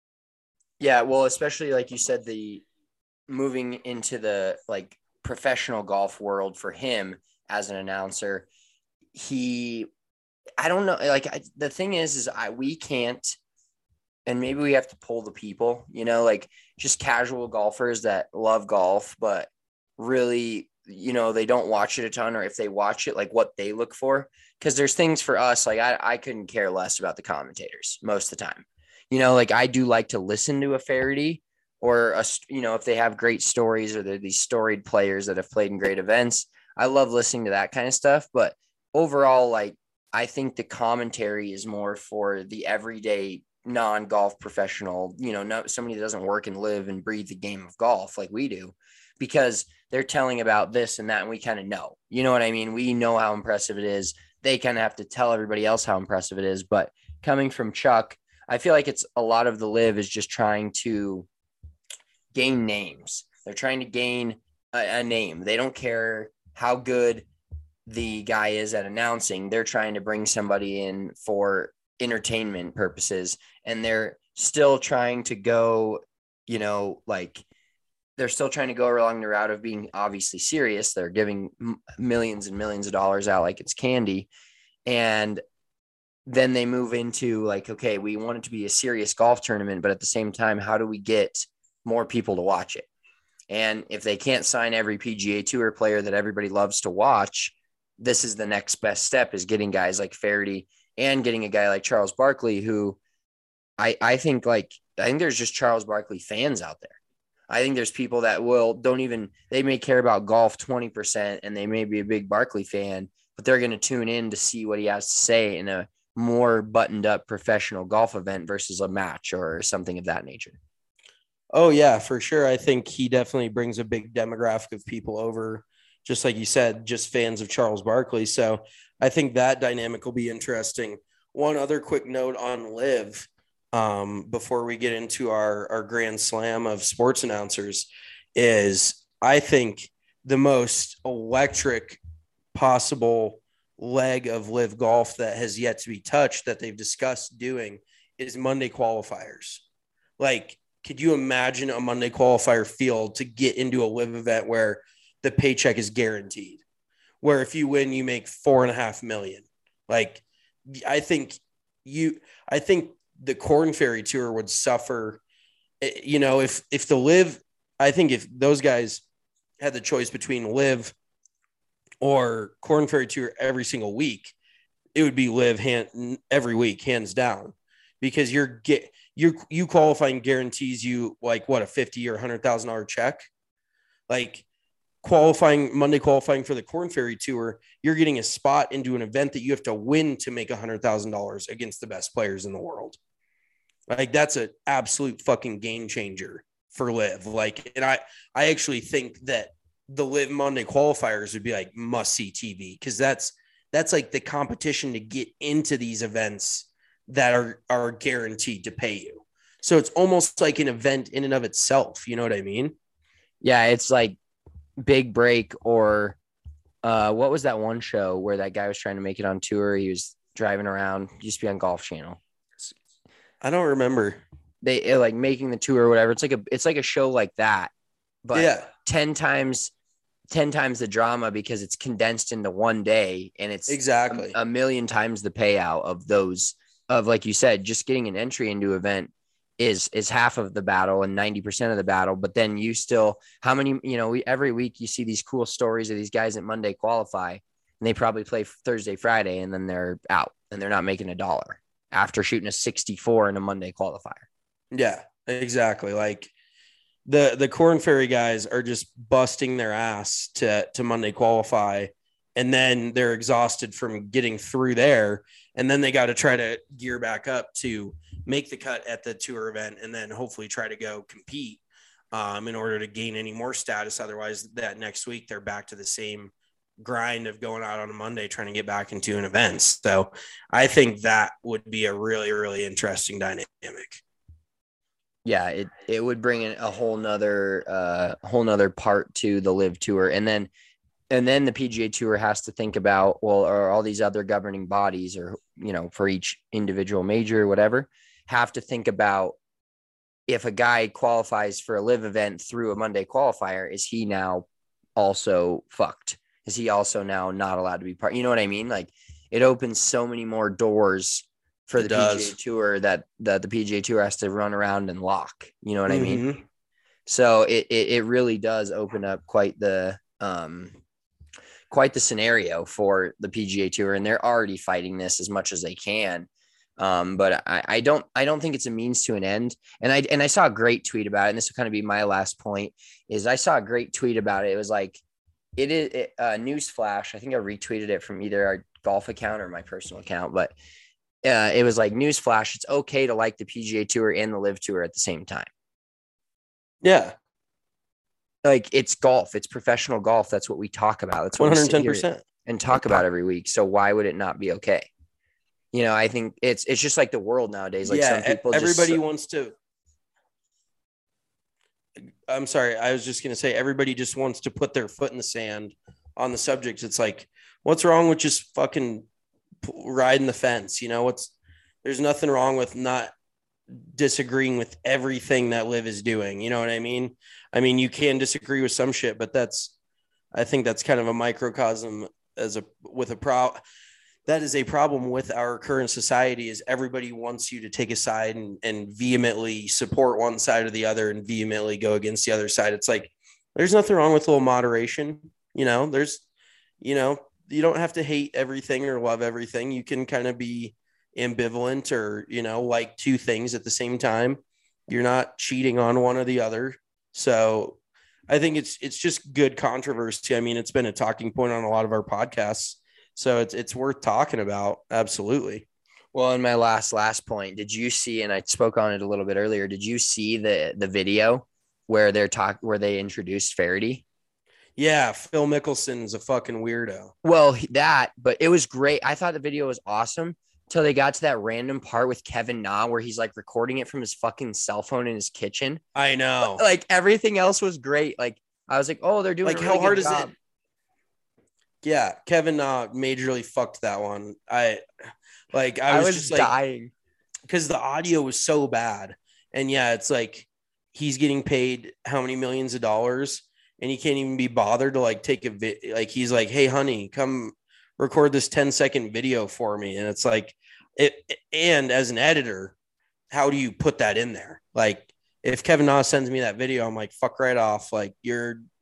Yeah. Well, especially like you said, the moving into the like professional golf world for him as an announcer, he, I don't know. Like I, the thing is, is I, we can't, and maybe we have to pull the people, you know, like just casual golfers that love golf, but really, you know, they don't watch it a ton, or if they watch it, like what they look for. Cause there's things for us, like I, I couldn't care less about the commentators most of the time. You know, like I do like to listen to a Faraday or, a, you know, if they have great stories or they're these storied players that have played in great events, I love listening to that kind of stuff. But overall, like, I think the commentary is more for the everyday non-golf professional, you know, no, somebody that doesn't work and live and breathe the game of golf like we do, because they're telling about this and that. And we kind of know, you know what I mean? We know how impressive it is. They kind of have to tell everybody else how impressive it is. But coming from Chuck, I feel like it's a lot of the Live is just trying to gain names. They're trying to gain a, a name. They don't care how good the guy is at announcing. They're trying to bring somebody in for entertainment purposes, and they're still trying to go, you know, like they're still trying to go along the route of being obviously serious. They're giving m- millions and millions of dollars out like it's candy. And then they move into like, okay, we want it to be a serious golf tournament, but at the same time, how do we get more people to watch it? And if they can't sign every P G A Tour player that everybody loves to watch, this is the next best step, is getting guys like Faraday and getting a guy like Charles Barkley, who I, I think like, I think there's just Charles Barkley fans out there. I think there's people that will, don't even, they may care about golf twenty percent and they may be a big Barkley fan, but they're going to tune in to see what he has to say in a more buttoned up professional golf event versus a match or something of that nature. Oh yeah, for sure. I think he definitely brings a big demographic of people over, just like you said, just fans of Charles Barkley. So I think that dynamic will be interesting. One other quick note on Live, um, before we get into our, our grand slam of sports announcers, is I think the most electric possible leg of Live Golf that has yet to be touched that they've discussed doing is Monday qualifiers. Like, could you imagine a Monday qualifier field to get into a Live event where the paycheck is guaranteed, where if you win, you make four and a half million? Like, I think you, I think the Corn Ferry Tour would suffer, you know, if, if the Live, I think if those guys had the choice between Live or Corn Ferry Tour every single week, it would be Live hand every week, hands down, because you're get you you qualifying guarantees you like what, a fifty or a hundred thousand dollar check. Like qualifying Monday qualifying for the Corn Ferry Tour, you're getting a spot into an event that you have to win to make a hundred thousand dollars against the best players in the world. Like that's an absolute fucking game changer for Live. Like, and I I actually think that the Live Monday qualifiers would be like must see T V, because that's that's like the competition to get into these events that are are guaranteed to pay you. So it's almost like an event in and of itself. You know what I mean? Yeah, it's like Big Break, or uh, what was that one show where that guy was trying to make it on tour? He was driving around, used to be on Golf Channel. I don't remember. They like making the tour or whatever. It's like a it's like a show like that, but yeah. ten times ten times the drama, because it's condensed into one day, and it's exactly a, a million times the payout of those of, like you said, just getting an entry into event is is half of the battle and ninety percent of the battle. But then you still, how many, you know, we, every week you see these cool stories of these guys that Monday qualify, and they probably play Thursday, Friday, and then they're out and they're not making a dollar after shooting a sixty-four in a Monday qualifier. Yeah, exactly. Like the, the Corn Ferry guys are just busting their ass to, to Monday qualify. And then they're exhausted from getting through there. And then they got to try to gear back up to make the cut at the tour event, and then hopefully try to go compete um, in order to gain any more status. Otherwise, that next week, they're back to the same grind of going out on a Monday, trying to get back into an event. So I think that would be a really, really interesting dynamic. Yeah, it, it would bring in a whole nother, uh, whole nother part to the Live Tour. And then, and then the P G A Tour has to think about, well, are all these other governing bodies, or, you know, for each individual major or whatever, have to think about, if a guy qualifies for a Live event through a Monday qualifier, is he now also fucked? Is he also now not allowed to be part? You know what I mean? Like, it opens so many more doors for the P G A Tour that, that the P G A Tour has to run around and lock. You know what mm-hmm. I mean? So it, it it really does open up quite the um quite the scenario for the P G A Tour, and they're already fighting this as much as they can. Um, but I, I don't I don't think it's a means to an end. And I and I saw a great tweet about it, and this will kind of be my last point. Is I saw a great tweet about it. It was like, it is it, uh, newsflash. I think I retweeted it from either our golf account or my personal account, but uh, it was like, newsflash, it's okay to like the P G A Tour and the Live Tour at the same time. Yeah. Like, it's golf, it's professional golf. That's what we talk about. That's what one hundred ten percent and talk about every week. So why would it not be okay? You know, I think it's, it's just like the world nowadays. Like, yeah, some people, everybody just, wants to, I'm sorry. I was just going to say, everybody just wants to put their foot in the sand on the subject. It's like, what's wrong with just fucking riding the fence? You know, what's, there's nothing wrong with not disagreeing with everything that Liv is doing. You know what I mean? I mean, you can disagree with some shit, but that's, I think that's kind of a microcosm as a, with a pro that is a problem with our current society, is everybody wants you to take a side and, and vehemently support one side or the other and vehemently go against the other side. It's like, there's nothing wrong with a little moderation. You know, there's, you know, you don't have to hate everything or love everything. You can kind of be ambivalent, or, you know, like two things at the same time. You're not cheating on one or the other. So I think it's, it's just good controversy. I mean, it's been a talking point on a lot of our podcasts. So it's it's worth talking about. Absolutely. Well, in my last last point, did you see, and I spoke on it a little bit earlier, did you see the the video where they're talk where they introduced Faraday? Yeah, Phil Mickelson's a fucking weirdo. Well, that, but it was great. I thought the video was awesome until they got to that random part with Kevin Na where he's like recording it from his fucking cell phone in his kitchen. I know. But, like, everything else was great. Like, I was like, oh, they're doing like a really how hard good is job. it? Yeah, Kevin uh, majorly fucked that one. I like I was, I was just dying because the audio was so bad. And yeah, it's like he's getting paid how many millions of dollars, and he can't even be bothered to like take a vid. Like, he's like, "Hey, honey, come record this ten second video for me." And it's like, it. And as an editor, how do you put that in there? Like, if Kevin Na sends me that video, I'm like, "Fuck right off!" Like, you're.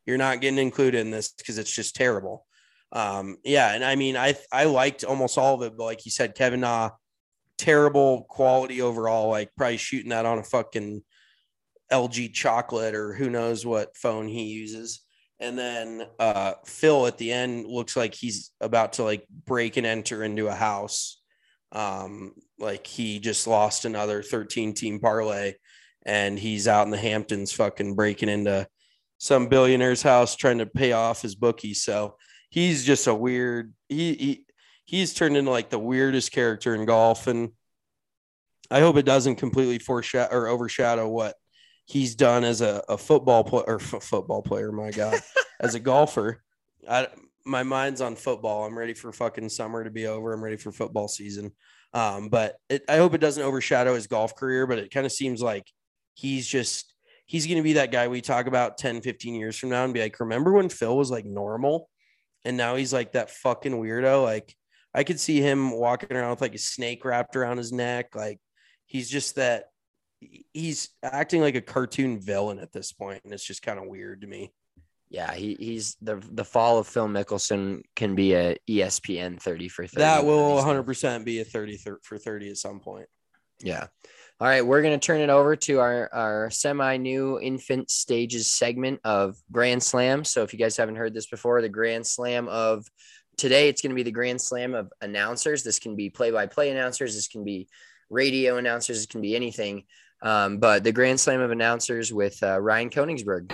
You're not getting included in this because it's just terrible. Um, yeah, and I mean, I I liked almost all of it, but like you said, Kevin Na, terrible quality overall. Like probably shooting that on a fucking L G chocolate or who knows what phone he uses. And then uh, Phil at the end looks like he's about to like break and enter into a house. Um, like he just lost another thirteen team parlay, and he's out in the Hamptons fucking breaking into some billionaire's house trying to pay off his bookie. So he's just a weird, he, he he's turned into like the weirdest character in golf. And I hope it doesn't completely foreshadow or overshadow what he's done as a, a football player or f- football player. My God, as a golfer, I, my mind's on football. I'm ready for fucking summer to be over. I'm ready for football season. Um, but it, I hope it doesn't overshadow his golf career, but it kind of seems like he's just, he's going to be that guy we talk about ten, fifteen years from now and be like, remember when Phil was like normal? And now he's like that fucking weirdo. Like I could see him walking around with like a snake wrapped around his neck. Like he's just that, he's acting like a cartoon villain at this point, and it's just kind of weird to me. Yeah, he, he's the the fall of Phil Mickelson can be a E S P N thirty for thirty. That will one hundred percent be a thirty for thirty at some point. Yeah. All right, we're going to turn it over to our, our semi-new infant stages segment of Grand Slam. So if you guys haven't heard this before, the Grand Slam of today, it's going to be the Grand Slam of announcers. This can be play-by-play announcers. This can be radio announcers. It can be anything. Um, but the Grand Slam of announcers with uh, Ryan Koenigsberg.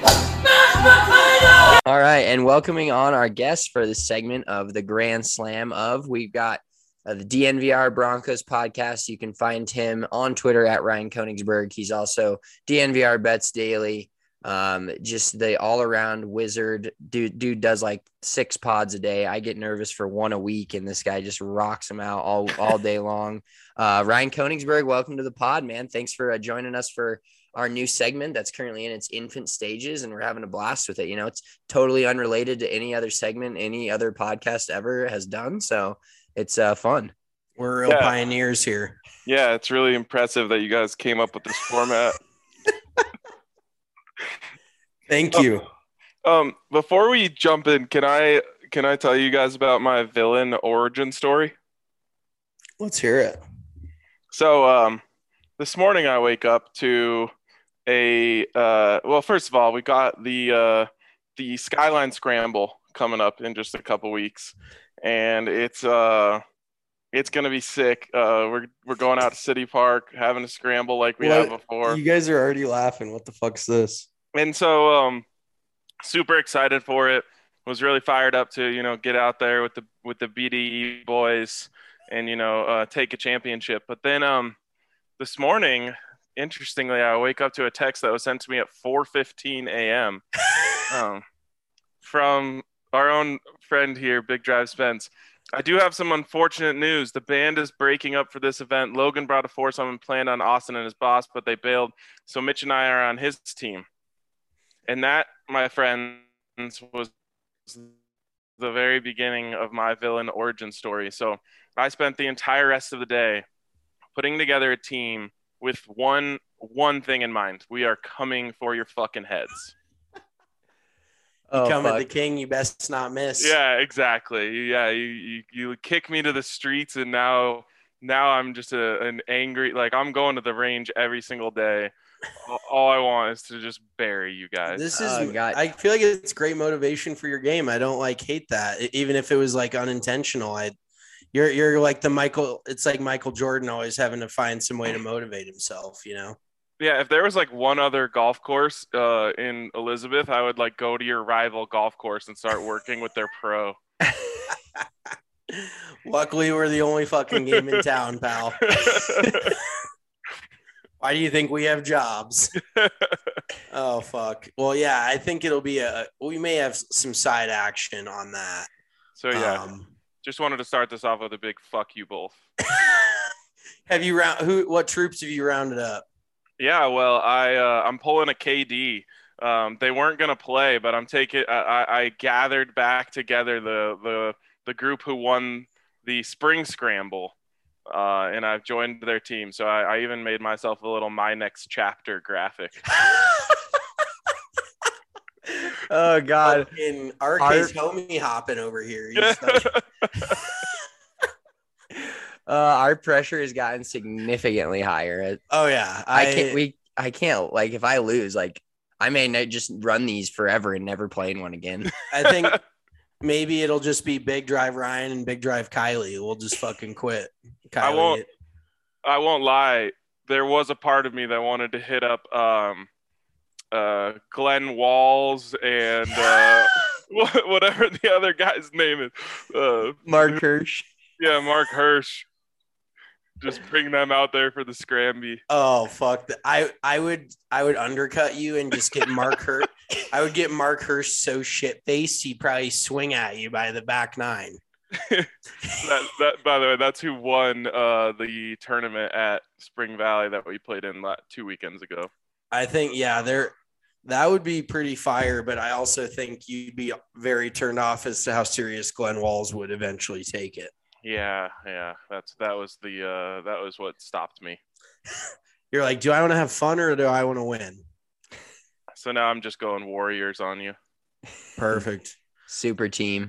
All right, and welcoming on our guest for this segment of the Grand Slam of, we've got uh, the D N V R Broncos podcast. You can find him on Twitter at Ryan Koenigsberg. He's also D N V R Bets Daily. Um, just the all-around wizard. Dude, dude does like six pods a day. I get nervous for one a week, and this guy just rocks them out all, all day long. Uh, Ryan Koenigsberg, welcome to the pod, man. Thanks for uh, joining us for our new segment that's currently in its infant stages, and we're having a blast with it. You know, it's totally unrelated to any other segment any other podcast ever has done, so it's uh, fun. We're real yeah. pioneers here. Yeah, it's really impressive that you guys came up with this format. Thank you. Um, um, before we jump in, can I can I tell you guys about my villain origin story? Let's hear it. So um, this morning I wake up to a uh, well. First of all, we got the uh, the Skyline Scramble coming up in just a couple weeks, and it's uh it's gonna be sick. Uh, we're we're going out to City Park, having a scramble like we what? have before. You guys are already laughing. What the fuck's this? And so, um, super excited for it. Was really fired up to you know get out there with the with the B D E boys and you know uh, take a championship. But then um, this morning, interestingly, I wake up to a text that was sent to me at four fifteen a.m. um, from our own friend here, Big Drive Spence. I do have some unfortunate news. The band is breaking up for this event. Logan brought a foursome and planned on Austin and his boss, but they bailed. So Mitch and I are on his team. And that, my friends, was the very beginning of my villain origin story. So I spent the entire rest of the day putting together a team with one one thing in mind. We are coming for your fucking heads. You oh, come fuck. at the king, you best not miss. Yeah, exactly. Yeah, you you, you kick me to the streets, and now now I'm just a, an angry, like I'm going to the range every single day. All I want is to just bury you guys. This is, oh, I feel like it's great motivation for your game. I don't like hate that, even if it was like unintentional. I, you're you're like the Michael. It's like Michael Jordan always having to find some way to motivate himself. You know. Yeah, if there was like one other golf course uh, in Elizabeth, I would like go to your rival golf course and start working with their pro. Luckily, we're the only fucking game in town, pal. Why do you think we have jobs? Oh, fuck. Well, yeah, I think it'll be a – we may have some side action on that. So, yeah, um, just wanted to start this off with a big fuck you both. Have you round – who? What troops have you rounded up? Yeah, well, I, uh, I'm pulling a K D. Um, they weren't going to play, but I'm taking – I, I gathered back together the, the, the group who won the spring scramble. Uh, and I've joined their team. So I, I even made myself a little My Next Chapter graphic. Oh God. In R K's homie hopping over here. He's like, uh, our pressure has gotten significantly higher. oh yeah, I, I can't. We. I can't. Like, if I lose, like, I may not just run these forever and never play in one again. I think maybe it'll just be Big Drive Ryan and Big Drive Kylie. We'll just fucking quit. Kylie. I won't. I won't lie. There was a part of me that wanted to hit up um, uh, Glenn Walls and uh, whatever the other guy's name is. Uh, Mark Hirsch. Yeah, Mark Hirsch. Just bring them out there for the Scramby. Oh fuck! I I would I would undercut you and just get Mark Hirsch. I would get Mark Hirsch so shit faced he'd probably swing at you by the back nine. that, that by the way, that's who won uh, the tournament at Spring Valley that we played in two weekends ago. I think yeah, there that would be pretty fire, but I also think you'd be very turned off as to how serious Glenn Walls would eventually take it. Yeah, yeah, that's that was the uh, that was what stopped me. You're like, do I want to have fun or do I want to win? So now I'm just going Warriors on you. Perfect. Super team.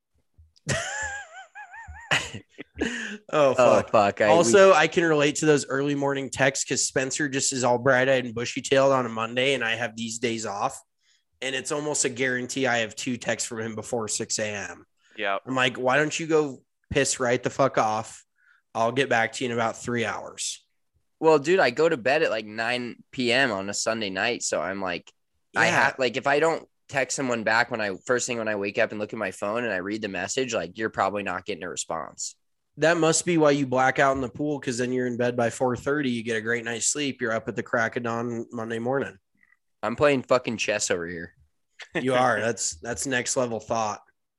oh fuck! Oh, fuck. I, also, we... I can relate to those early morning texts because Spencer just is all bright-eyed and bushy-tailed on a Monday, and I have these days off, and it's almost a guarantee I have two texts from him before six a.m. Yeah, I'm like, why don't you go piss right the fuck off? I'll get back to you in about three hours. Well, dude, I go to bed at like nine p.m. on a Sunday night, so I'm like, yeah. I have like if I don't text someone back when I first thing when I wake up and look at my phone and I read the message, like you're probably not getting a response. That must be why you black out in the pool, because then you're in bed by four thirty. You get a great night's sleep. You're up at the crack of dawn Monday morning. I'm playing fucking chess over here. You are. That's that's next level thought.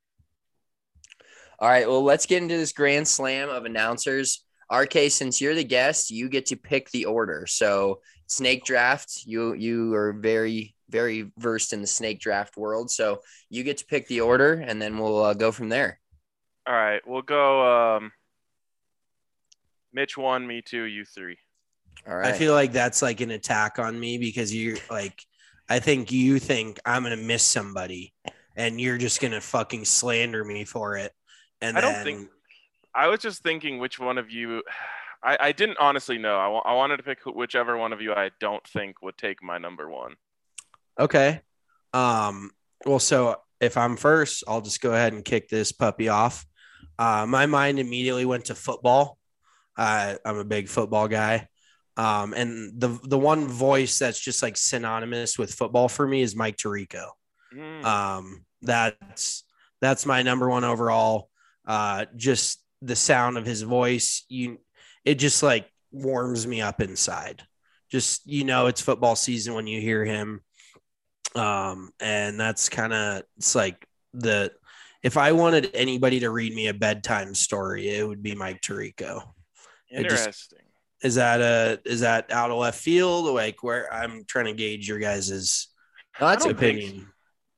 All right, well, let's get into this grand slam of announcers. R K, since you're the guest, you get to pick the order. So snake draft, you you are very, very versed in the snake draft world. So you get to pick the order, and then we'll uh, go from there. All right, we'll go um, Mitch one, me two, you three. All right. I feel like that's like an attack on me because you're like, I think you think I'm going to miss somebody, and you're just going to fucking slander me for it. And I then, don't think I was just thinking which one of you I, I didn't honestly know. I, w- I wanted to pick whichever one of you I don't think would take my number one. Okay. Um, well, so if I'm first, I'll just go ahead and kick this puppy off. Uh, my mind immediately went to football. Uh, I'm a big football guy. Um, and the the one voice that's just like synonymous with football for me is Mike Tirico. Mm. Um, that's that's my number one overall. Uh, just the sound of his voice, you, it just like warms me up inside. Just, you know, it's football season when you hear him. Um, and that's kind of, it's like the, if I wanted anybody to read me a bedtime story, it would be Mike Tirico. Interesting. Just, is that a, is that out of left field? Like where I'm trying to gauge your guys's no, that's opinion. Think-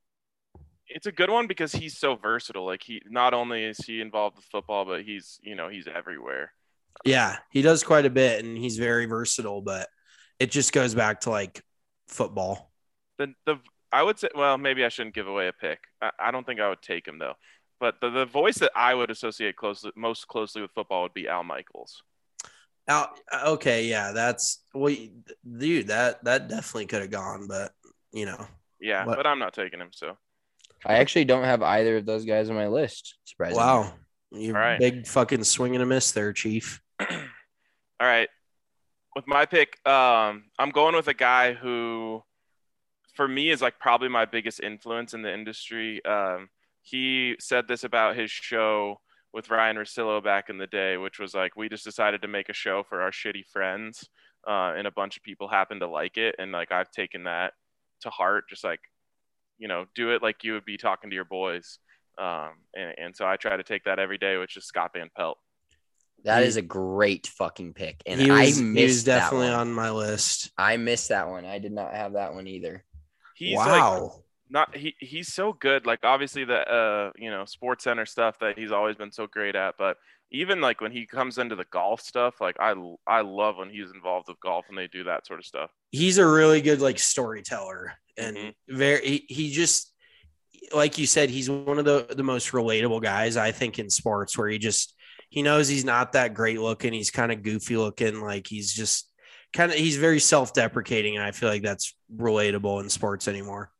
It's a good one because he's so versatile. Like he, not only is he involved with football, but he's, you know, he's everywhere. Yeah, he does quite a bit and he's very versatile, but it just goes back to like football. The, the, I would say, well, maybe I shouldn't give away a pick. I, I don't think I would take him though, but the, the voice that I would associate closely, most closely with football would be Al Michaels. Al, okay. Yeah. That's well, dude, that, that definitely could have gone, but you know, yeah, what? But I'm not taking him. So. I actually don't have either of those guys on my list. Surprisingly. Wow. You right. Big fucking swing and a miss there, Chief. All right. With my pick, um, I'm going with a guy who, for me, is like probably my biggest influence in the industry. Um, he said this about his show with Ryan Russillo back in the day, which was like, we just decided to make a show for our shitty friends, uh, and a bunch of people happened to like it. And like, I've taken that to heart, just like, you know, do it like you would be talking to your boys. Um, and, and so I try to take that every day, which is Scott Van Pelt. That he, is a great fucking pick. And he was, I missed he was definitely that one. on my list. I missed that one. I did not have that one either. He's wow. Like, not he he's so good. Like obviously the uh you know Sports Center stuff that he's always been so great at, but even like when he comes into the golf stuff, like I I love when he's involved with golf and they do that sort of stuff. He's a really good like storyteller and mm-hmm. very he, he just like you said, he's one of the, the most relatable guys, I think, in sports, where he just, he knows he's not that great looking. He's kind of goofy looking. Like he's just kind of, he's very self-deprecating. And I feel like that's relatable in sports anymore.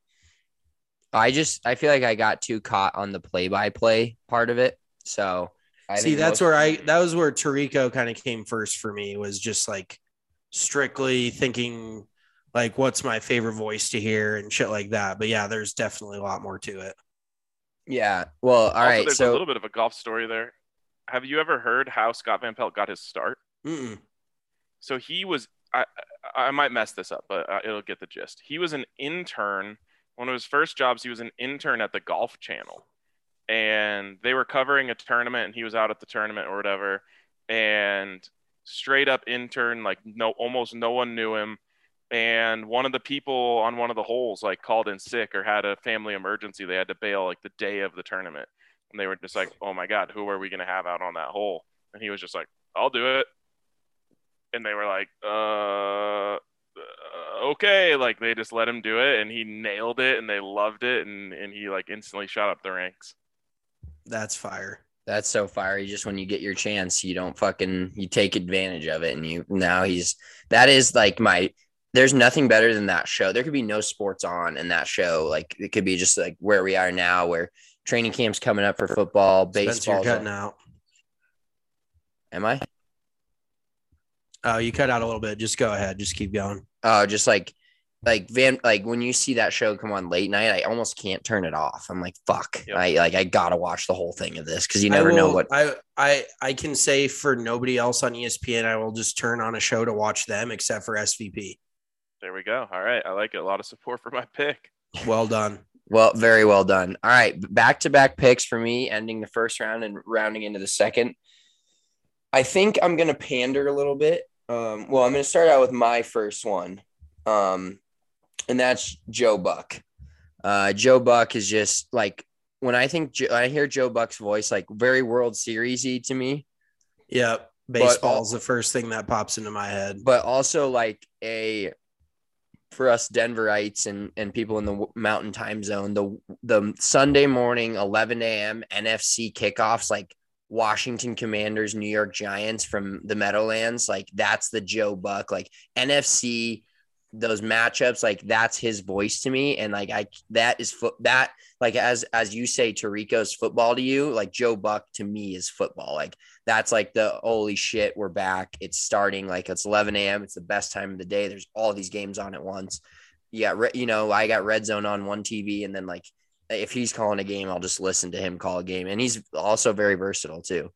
I just, I feel like I got too caught on the play-by-play part of it. So I see, think that's most- where I, that was where Tirico kind of came first for me, was just like strictly thinking like, what's my favorite voice to hear and shit like that. But yeah, there's definitely a lot more to it. Yeah. Well, all also, right. there's So a little bit of a golf story there. Have you ever heard how Scott Van Pelt got his start? Mm-mm. So he was, I, I might mess this up, but uh, it'll get the gist. He was an intern. One of his first jobs, he was an intern at the Golf Channel. And they were covering a tournament, and he was out at the tournament or whatever. And straight up intern, like no, almost no one knew him. And one of the people on one of the holes like called in sick or had a family emergency. They had to bail like the day of the tournament. And they were just like, oh my God, who are we going to have out on that hole? And he was just like, I'll do it. And they were like, uh, uh, okay. Like they just let him do it, and he nailed it, and they loved it. And, and he like instantly shot up the ranks. That's fire. that's so fiery. Just when you get your chance, you don't fucking, you take advantage of it. And you, now he's, that is like my, there's nothing better than that show. There could be no sports on in that show. Like it could be just like where we are now, where training camp's coming up for football, baseball. You're cutting out. Am I? Oh, you cut out a little bit. Just go ahead. Just keep going. Oh, just like, like Van, like when you see that show come on late night, I almost can't turn it off. I'm like, fuck, Yep. I like, I gotta watch the whole thing of this because you I never will- know what. I, I I can say for nobody else on E S P N, I will just turn on a show to watch them, except for S V P. There we go. All right. I like it. A lot of support for my pick. Well done. Well, very well done. All right, back to back picks for me, ending the first round and rounding into the second. I think I'm gonna pander a little bit. Um, well, I'm gonna start out with my first one, um, and that's Joe Buck. Uh, Joe Buck is just like when I think when I hear Joe Buck's voice, like very World Series-y to me. Yep. Baseball's the first thing that pops into my head. But also like a for us Denverites and, and people in the mountain time zone, the the Sunday morning eleven a.m. N F C kickoffs, like Washington Commanders, New York Giants from the Meadowlands, like that's the Joe Buck, like N F C, those matchups, like that's his voice to me. And like I that is foot that like as as you say, Tirico's football to you, like Joe Buck to me is football. Like that's like the holy shit, we're back. It's starting, like it's eleven a.m. It's the best time of the day. There's all these games on at once. Yeah, you know, I got Red Zone on one T V, and then like if he's calling a game, I'll just listen to him call a game. And he's also very versatile too.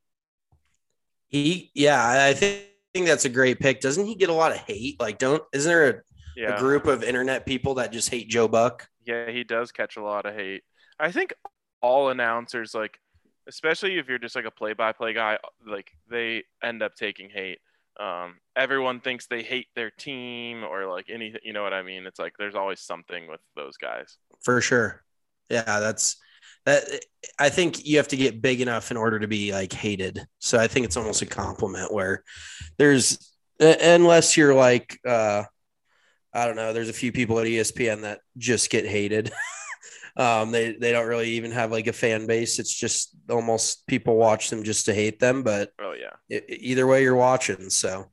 He, yeah, I think, think that's a great pick. Doesn't he get a lot of hate? Like, don't, isn't there a, Yeah. a group of internet people that just hate Joe Buck? Yeah, he does catch a lot of hate. I think all announcers, like, especially if you're just like a play-by-play guy, like they end up taking hate. Um, everyone thinks they hate their team or like anything, you know what I mean? It's like there's always something with those guys. For sure. Yeah, that's that. I think you have to get big enough in order to be like hated. So I think it's almost a compliment where there's, unless you're like, uh, I don't know, there's a few people at E S P N that just get hated. um, they, they don't really even have like a fan base. It's just almost people watch them just to hate them. But Oh yeah. it, either way you're watching. So.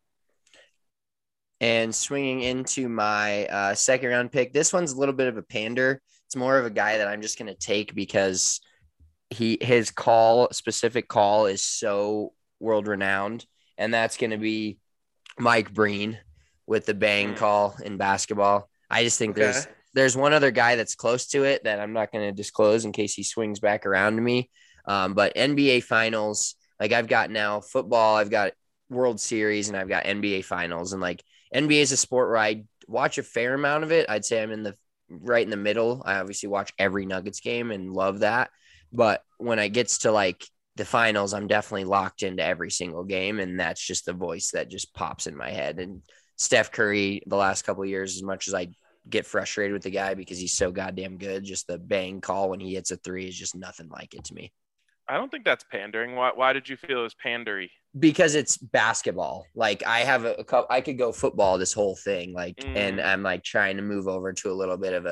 And swinging into my uh, second round pick, this one's a little bit of a pander. It's more of a guy that I'm just going to take because he his call, specific call, is so world renowned, and that's going to be Mike Breen with the bang call in basketball. I just think Okay. there's there's one other guy that's close to it that I'm not going to disclose in case he swings back around to me. Um, but N B A Finals, like I've got now football, I've got World Series, and I've got N B A Finals, and like N B A is a sport where I watch a fair amount of it. I'd say I'm in the right in the middle. I obviously watch every Nuggets game and love that. But when it gets to like the finals, I'm definitely locked into every single game. And that's just the voice that just pops in my head. And Steph Curry, the last couple of years, as much as I get frustrated with the guy because he's so goddamn good, just the bang call when he hits a three is just nothing like it to me. I don't think that's pandering. Why, why did you feel it was pandery? Because it's basketball. Like I have a, a couple, I could go football this whole thing. Like, Mm. and I'm like trying to move over to a little bit of a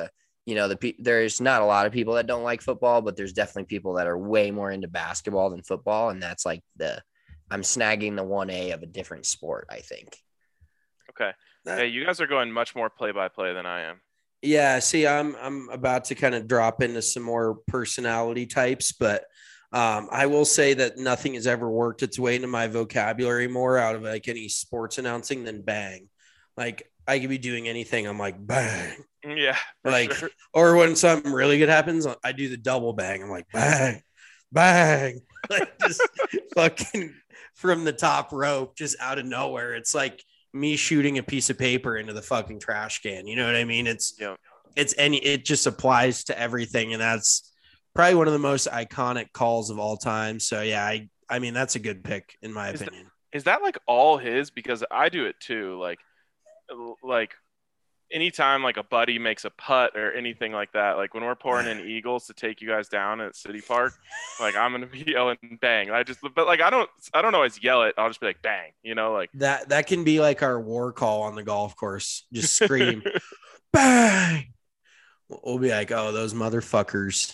you know, the pe- there's not a lot of people that don't like football, but there's definitely people that are way more into basketball than football. And that's like the, I'm snagging the one A of a different sport, I think. Okay. Hey, you guys are going much more play by play than I am. Yeah, see, I'm I'm about to kind of drop into some more personality types, but um, I will say that nothing has ever worked its way into my vocabulary more out of like any sports announcing than bang. Like I could be doing anything, I'm like bang. Yeah, Like, sure. or when something really good happens, I do the double bang. I'm like bang, bang, like just fucking from the top rope, just out of nowhere. It's like me shooting a piece of paper into the fucking trash can. You know what I mean? It's Yeah. it's any it just applies to everything, and that's probably one of the most iconic calls of all time. So yeah, I I mean that's a good pick in my Is that- opinion. Is that like all his? Because I do it too. Like, like anytime like a buddy makes a putt or anything like that, like when we're pouring in eagles to take you guys down at City Park, like I'm gonna be yelling bang. I just, but like I don't, I don't always yell it. I'll just be like bang, you know, like That that can be like our war call on the golf course. Just scream bang. We'll be like, oh, those motherfuckers.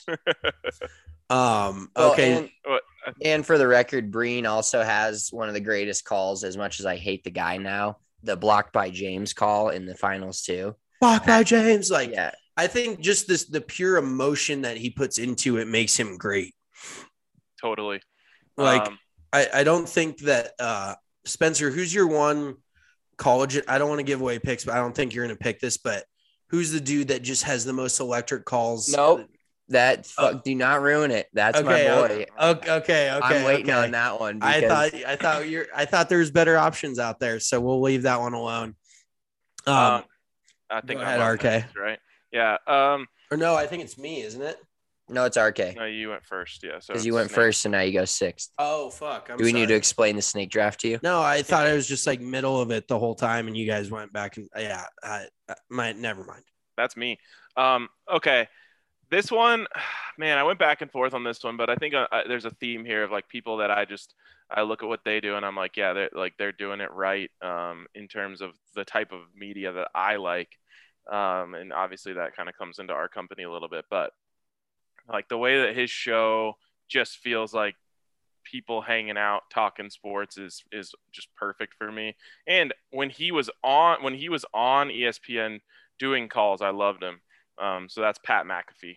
Um, Well, okay. and, and for the record, Breen also has one of the greatest calls, as much as I hate the guy now, the blocked by James call in the finals too. Blocked by James. Like, Yeah. I think just this, the pure emotion that he puts into it makes him great. totally. Like, Um, I, I don't think that, uh, Spencer, who's your one college? I don't want to give away picks, but I don't think you're going to pick this, but who's the dude that just has the most electric calls? Nope. That fuck, Oh. do not ruin it. That's Okay, my boy. Okay. Okay. Okay. I'm waiting okay. on that one. I because- thought, I thought you're, I thought there was better options out there. So we'll leave that one alone. Um, um, I think go I'm ahead, on R K. next, right? Yeah. Um, or no, I think it's me, isn't it? No, it's R K. no, you went first. Yeah. So Because you it's went Snake. first, and now you go sixth. Oh, fuck. I'm Do we need to sorry. explain the snake draft to you? No, I thought it was just like middle of it the whole time, and you guys went back and yeah, I, I might never mind. That's me. Um, okay. This one, man, I went back and forth on this one, but I think uh, uh, there's a theme here of like people that I just I look at what they do and I'm like, yeah, they're like they're doing it right um, in terms of the type of media that I like, um, and obviously that kind of comes into our company a little bit, but like the way that his show just feels like people hanging out talking sports is is just perfect for me. And when he was on when he was on E S P N doing calls, I loved him. Um, so that's Pat McAfee.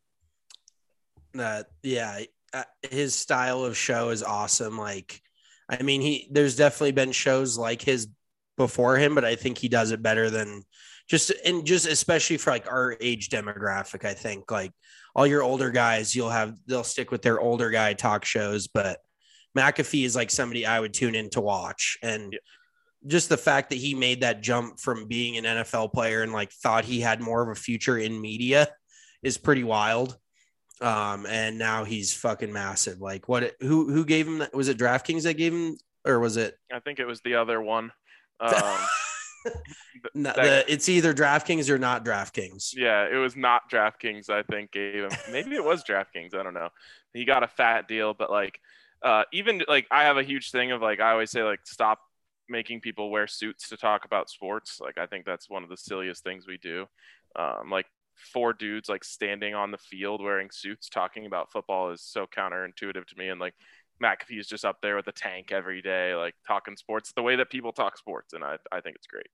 That yeah, uh, his style of show is awesome. Like, I mean, he there's definitely been shows like his before him, but I think he does it better than just and just especially for like our age demographic. I think like all your older guys, you'll have they'll stick with their older guy talk shows, but McAfee is like somebody I would tune in to watch. And Yeah. just the fact that he made that jump from being an N F L player and like thought he had more of a future in media is pretty wild. Um, and now he's fucking massive. Like what, who, who gave him that? Was it DraftKings that gave him, or was it? I think it was the other one. Um, No, that- the, it's either DraftKings or not DraftKings. yeah, it was not DraftKings, I think, gave him. Maybe it was DraftKings. I don't know. He got a fat deal, but like, uh, even like I have a huge thing of like, I always say like, stop making people wear suits to talk about sports. Like, I think that's one of the silliest things we do. Um, like four dudes like standing on the field wearing suits talking about football is so counterintuitive to me. And like McAfee is just up there with a tank every day, like talking sports the way that people talk sports. And I, I think it's great.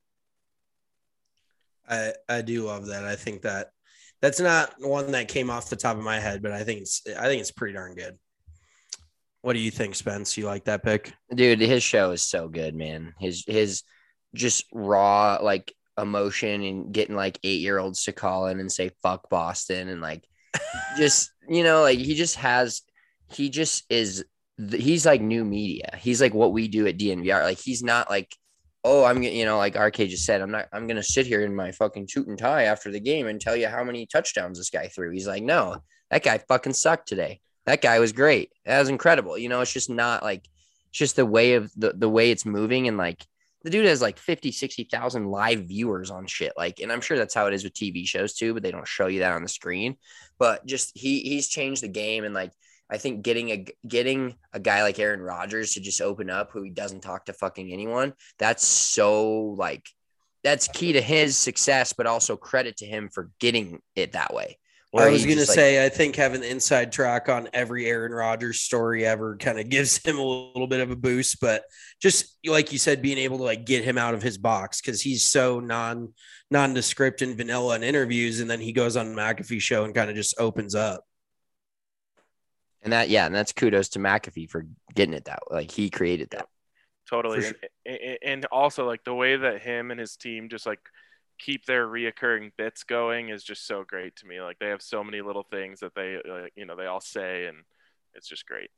I, I do love that. I think that that's not one that came off the top of my head, but I think it's, I think it's pretty darn good. What do you think, Spence? You like that pick? Dude, his show is so good, man. His his just raw like emotion and getting like eight year olds to call in and say fuck Boston and like just you know like he just has he just is he's like new media. He's like what we do at D N V R. Like he's not like oh I'm gonna you know like R K just said I'm not I'm gonna sit here in my fucking suit and tie after the game and tell you how many touchdowns this guy threw. He's like no, that guy fucking sucked today. That guy was great. That was incredible. You know, it's just not like, it's just the way of the, the way it's moving. And like the dude has like fifty, sixty thousand live viewers on shit. Like, and I'm sure that's how it is with T V shows too, but they don't show you that on the screen, but just, he he's changed the game. And like, I think getting a, getting a guy like Aaron Rodgers to just open up who he doesn't talk to fucking anyone. That's so like, that's key to his success, but also credit to him for getting it that way. I was going to say, like, I think having the inside track on every Aaron Rodgers story ever kind of gives him a little bit of a boost, but just like you said, being able to like get him out of his box because he's so non nondescript and vanilla in interviews, and then he goes on McAfee show and kind of just opens up. And that, yeah, and that's kudos to McAfee for getting it that way. Like he created that. Totally. Sure. And, and also like the way that him and his team just like keep their reoccurring bits going is just so great to me. Like they have so many little things that they, like, you know, they all say, and it's just great.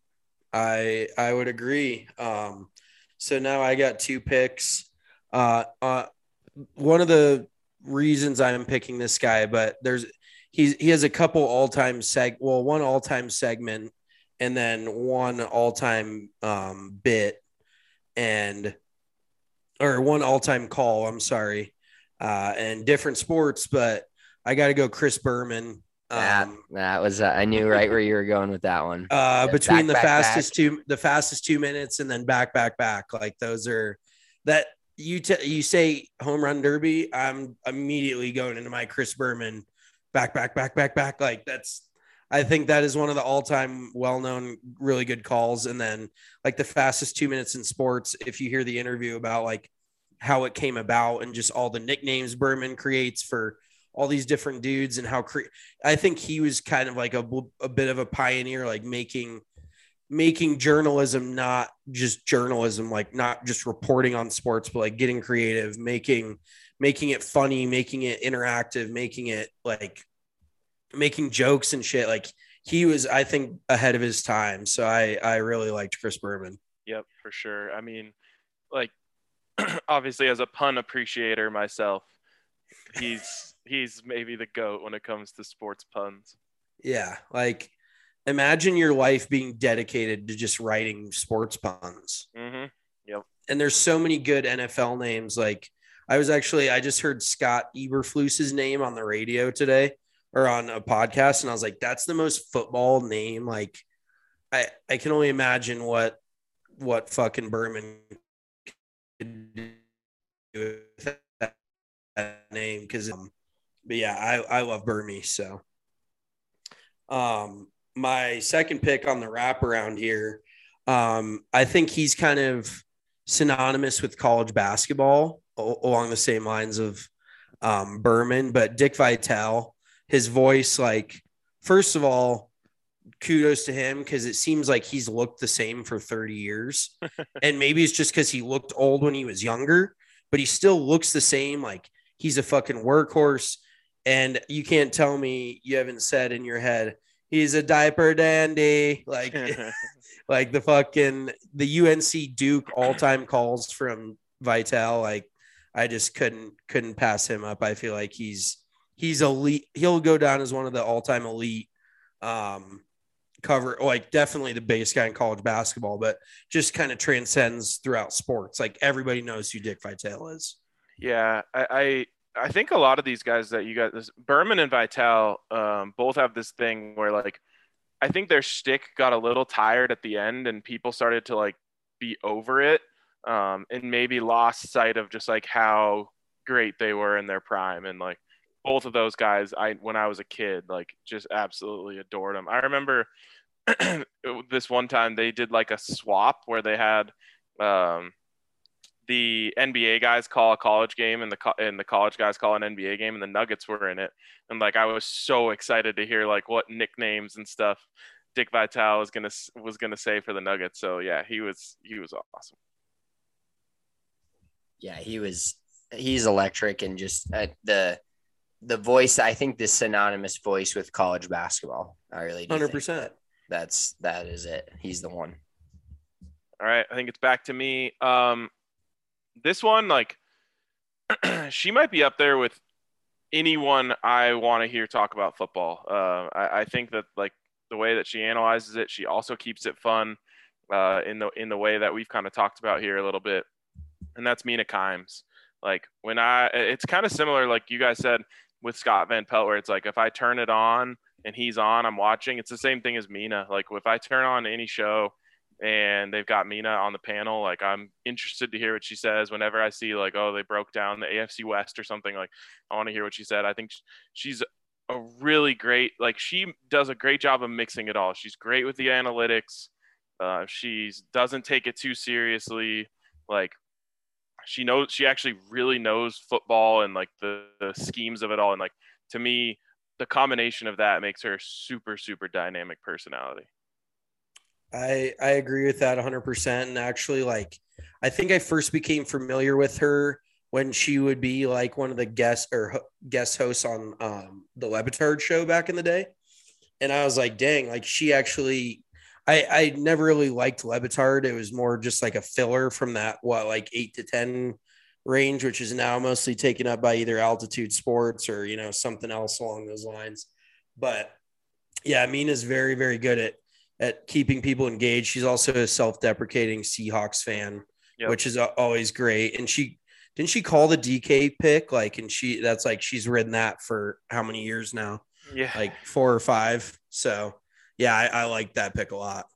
I, I would agree. Um, so now I got two picks. Uh, uh, one of the reasons I'm picking this guy, but there's, he's, he has a couple all-time seg, well, one all-time segment and then one all-time um, bit and, or one all-time call. I'm sorry. Uh, and different sports, but I got to go Chris Berman. That, Um, that was, uh, I knew right where you were going with that one. uh, Yeah, between back, the back, fastest back. two, the fastest two minutes and then back, back, back. Like those are that you, t- you say home run derby. I'm immediately going into my Chris Berman back, back, back, back, back. Like that's, I think that is one of the all-time well-known, really good calls. And then like the fastest two minutes in sports, if you hear the interview about like how it came about and just all the nicknames Berman creates for all these different dudes and how cre- I think he was kind of like a, a bit of a pioneer, like making, making journalism, not just journalism, like not just reporting on sports, but like getting creative, making, making it funny, making it interactive, making it like making jokes and shit. Like he was, I think, ahead of his time. So I, I really liked Chris Berman. Yep, for sure. I mean, like, obviously as a pun appreciator myself, he's he's maybe the GOAT when it comes to sports puns. Yeah, like imagine your life being dedicated to just writing sports puns. Mm-hmm. Yep. And there's so many good N F L names. Like I was actually I just heard Scott Eberflus's name on the radio today or on a podcast, and I was like, that's the most football name. Like I I can only imagine what what fucking Berman do with that, that name because um, but yeah I, I love Burmy. So um my second pick on the wraparound here, um I think he's kind of synonymous with college basketball o- along the same lines of um Berman, but Dick Vitale, his voice, like first of all, kudos to him because it seems like he's looked the same for thirty years. And maybe it's just because he looked old when he was younger, but he still looks the same. Like he's a fucking workhorse. And you can't tell me you haven't said in your head, he's a diaper dandy. Like, like the fucking, the U N C Duke all-time calls from Vitale. Like I just couldn't, couldn't pass him up. I feel like he's, he's elite. He'll go down as one of the all-time elite, um, cover, like definitely the base guy in college basketball, but just kind of transcends throughout sports. Like everybody knows who Dick Vitale is. Yeah, I, I I think a lot of these guys that you got, this Berman and Vitale, um, both have this thing where like I think their shtick got a little tired at the end, and people started to like be over it, um, and maybe lost sight of just like how great they were in their prime. And like both of those guys, I when I was a kid, like just absolutely adored them. I remember this one time they did like a swap where they had um, the N B A guys call a college game and the co- and the college guys call an N B A game, and the Nuggets were in it. And like I was so excited to hear like what nicknames and stuff Dick Vitale was gonna was gonna say for the Nuggets. So yeah, he was he was awesome. Yeah, he was. He's electric, and just uh, the the voice. I think the synonymous voice with college basketball. I really do. one hundred think percent. that that's that is it. He's the one. All right, I think it's back to me. Um, this one, like, she might be up there with anyone I want to hear talk about football. Uh, I, I think that like the way that she analyzes it, she also keeps it fun uh, in the in the way that we've kind of talked about here a little bit, and that's Mina Kimes. Like when I, it's kind of similar, like you guys said with Scott Van Pelt, where it's like if I turn it on and he's on, I'm watching. It's the same thing as Mina. Like if I turn on any show and they've got Mina on the panel. Like, I'm interested to hear what she says whenever I see like, oh, they broke down the A F C West or something. Like, I want to hear what she said. I think she's a really great, like, she does a great job of mixing it all. She's great with the analytics. Uh, she doesn't take it too seriously. Like, she knows, she actually really knows football and like the, the schemes of it all. And like, to me, the combination of that makes her a super, super dynamic personality. I I agree with that one hundred percent. And actually, like, I think I first became familiar with her when she would be like one of the guest or ho- guest hosts on um, the Le Batard show back in the day. And I was like, dang, like she actually, I, I never really liked Le Batard. It was more just like a filler from that, what, like eight to ten range, which is now mostly taken up by either Altitude Sports or, you know, something else along those lines. But yeah, Mina's very, very good at, at keeping people engaged. She's also a self-deprecating Seahawks fan, yep. which is always great. And she, didn't she call the D K pick? Like, and she, that's like, she's ridden that for how many years now? Yeah. Like four or five. So yeah, I, I like that pick a lot.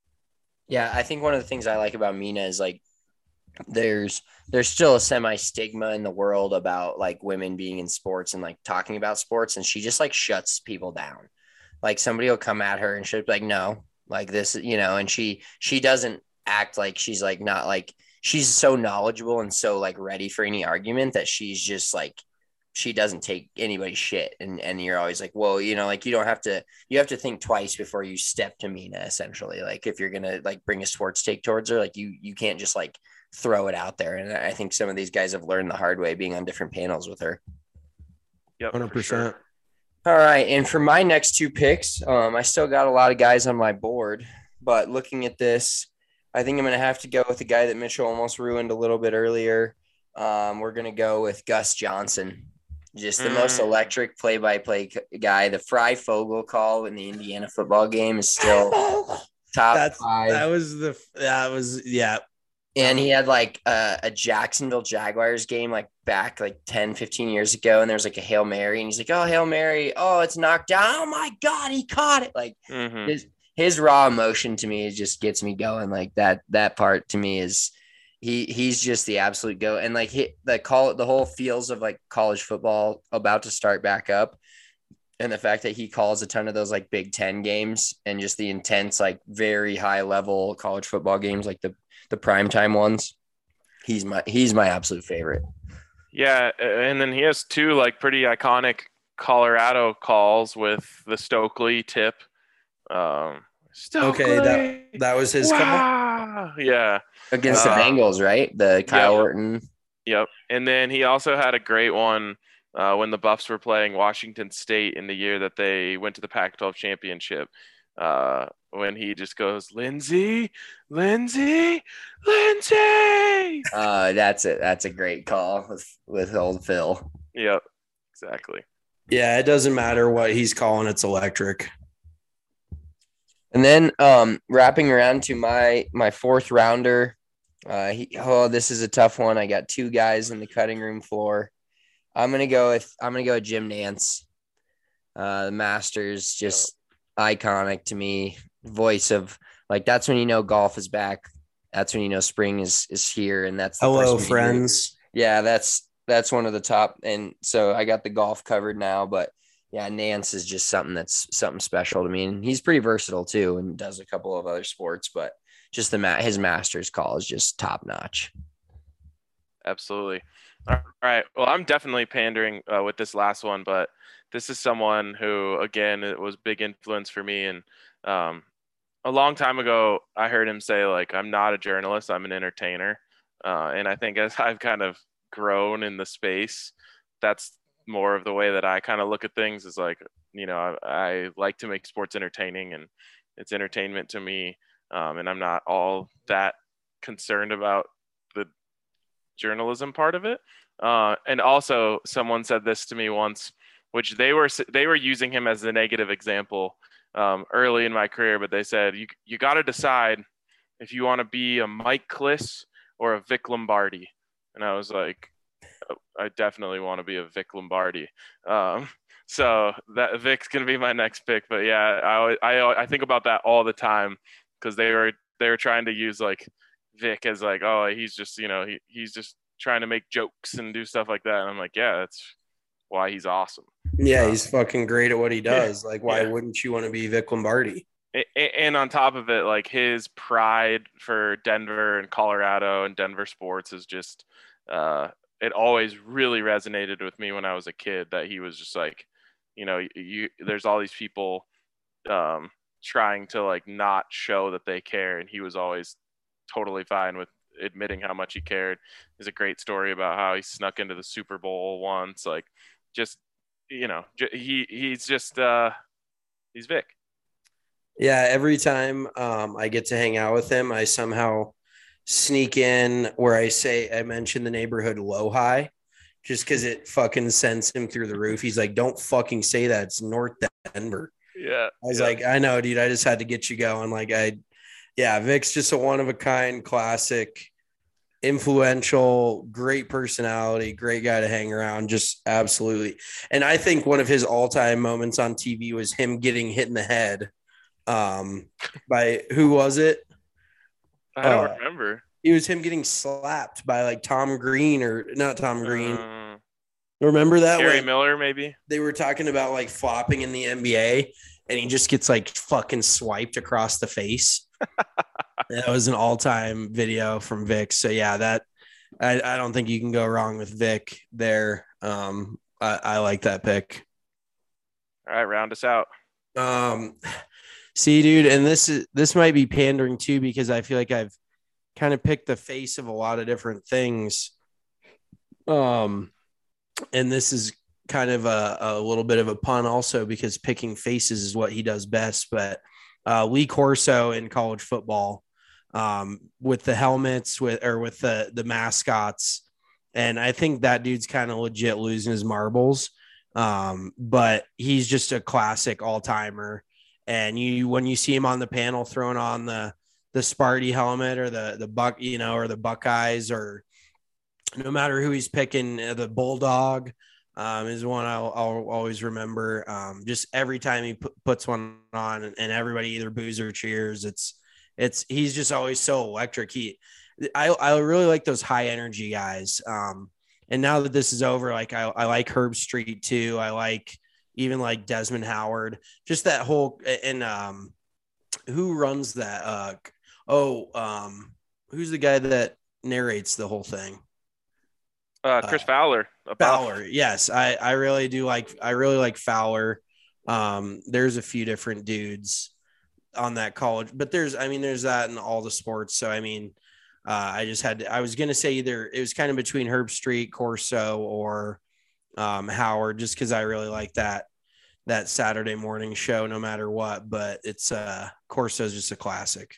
Yeah. I think one of the things I like about Mina is like, there's, there's still a semi stigma in the world about like women being in sports and like talking about sports. And she just like shuts people down. Like somebody will come at her and she'll be like, no, like this, you know, and she, she doesn't act like she's like, not like, she's so knowledgeable and so like ready for any argument that she's just like, she doesn't take anybody's shit. And, and you're always like, well, you know, like you don't have to, you have to think twice before you step to Mina, essentially. Like if you're going to like bring a sports take towards her, like you, you can't just like throw it out there. And I think some of these guys have learned the hard way being on different panels with her. Yep. one hundred percent. Sure. All right. And for my next two picks, um, I still got a lot of guys on my board, but looking at this, I think I'm going to have to go with the guy that Mitchell almost ruined a little bit earlier. Um, we're going to go with Gus Johnson, just the mm. most electric play-by-play guy. The Fry Fogel call in the Indiana football game is still top That's, five. That was the, that was, yeah. And he had like a, a Jacksonville Jaguars game like back like ten, fifteen years ago. And there was like a Hail Mary and he's like, oh, Hail Mary. Oh, it's knocked down. Oh my God, he caught it. Like mm-hmm. his, his raw emotion to me just gets me going. Like that, that part to me is he, he's just the absolute go. And like he, the call, the whole feels of like college football about to start back up. And the fact that he calls a ton of those like Big Ten games and just the intense, like very high level college football games, like the, the primetime ones. He's my, he's my absolute favorite. Yeah. And then he has two like pretty iconic Colorado calls with the Stokely tip. Um, Stokely. Okay. That, that was his wow. call. Yeah. Against uh, the Bengals, right? The Kyle yep. Orton. Yep. And then he also had a great one uh, when the Buffs were playing Washington State in the year that they went to the Pac twelve championship. Uh, when he just goes, Lindsay, Lindsay, Lindsay. Uh, that's it. That's a great call with, with old Phil. Yep, exactly. Yeah, it doesn't matter what he's calling. It's electric. And then um, wrapping around to my my fourth rounder. Uh, he, oh, this is a tough one. I got two guys in the cutting room floor. I'm gonna go with I'm gonna go with Jim Nantz. Uh, the Masters, just yep. iconic to me. Voice of like that's when you know golf is back. That's when you know spring is is here, and that's the hello friends. Yeah, that's that's one of the top. And so I got the golf covered now, but yeah, Nantz is just something that's something special to me, and he's pretty versatile too, and does a couple of other sports. But just the his Masters call is just top notch. Absolutely. All right. Well, I'm definitely pandering uh, with this last one, but this is someone who, again, it was big influence for me. And um, a long time ago, I heard him say, like, I'm not a journalist, I'm an entertainer. Uh, and I think as I've kind of grown in the space, that's more of the way that I kind of look at things is like, you know, I, I like to make sports entertaining, and it's entertainment to me. Um, and I'm not all that concerned about the journalism part of it. Uh, and also someone said this to me once, which they were, they were using him as a negative example um, early in my career, but they said, you, you got to decide if you want to be a Mike Kliss or a Vic Lombardi. And I was like, I definitely want to be a Vic Lombardi. Um, so that Vic's going to be my next pick, but yeah, I, I, I think about that all the time because they were they were trying to use like Vic as like, oh, he's just, you know, he, he's just trying to make jokes and do stuff like that. And I'm like, yeah, that's why he's awesome. Yeah, Um, he's fucking great at what he does. Yeah, like, why yeah. wouldn't you want to be Vic Lombardi? And on top of it, like his pride for Denver and Colorado and Denver sports is just, uh, it always really resonated with me when I was a kid, that he was just like, you know, you, there's all these people um, trying to like not show that they care. And he was always totally fine with admitting how much he cared. There's a great story about how he snuck into the Super Bowl once, like just, you know, he, he's just, uh, he's Vic. Yeah, every time um, I get to hang out with him, I somehow sneak in where I say I mention the neighborhood low high, just because it fucking sends him through the roof. He's like, "Don't fucking say that. It's North Denver." Yeah, I was yeah. like, "I know, dude. I just had to get you going." Like, I, yeah, Vic's just a one of a kind, classic, influential, great personality, great guy to hang around. Just absolutely. And I think one of his all time moments on T V was him getting hit in the head. Um, by who was it? I don't uh, remember. It was him getting slapped by like Tom Green or not Tom Green. Uh, Remember that? Gary when Miller, maybe? They were talking about like flopping in the N B A and he just gets like fucking swiped across the face. That was an all-time video from Vic. So yeah, that I, I don't think you can go wrong with Vic there. Um, I, I like that pick. All right, round us out. Um, see, dude, and this is this might be pandering too, because I feel like I've kind of picked the face of a lot of different things. Um, and this is kind of a, a little bit of a pun also, because picking faces is what he does best. But uh, Lee Corso in college football, um, with the helmets, with or with the the mascots, and I think that dude's kind of legit losing his marbles. Um, but he's just a classic all timer. And you, when you see him on the panel throwing on the, the Sparty helmet or the, the Buck, you know, or the Buckeyes, or no matter who he's picking, the Bulldog um, is one I'll, I'll always remember. Um, just every time he p- puts one on and everybody either boos or cheers, it's, it's, he's just always so electric. He, I, I really like those high energy guys. Um, And now that this is over, like I, I like Herb Street too. I like even like Desmond Howard, just that whole, and um, who runs that? Uh, oh, um, who's the guy that narrates the whole thing? Uh, Chris uh, Fowler. Fowler. Yes. I, I really do like, I really like Fowler. Um, there's a few different dudes on that college, but there's, I mean, there's that in all the sports. So, I mean, Uh, I just had to, I was going to say either it was kind of between Herb Street, Corso, or um, Howard, just because I really like that that Saturday morning show no matter what. But it's uh, Corso is just a classic.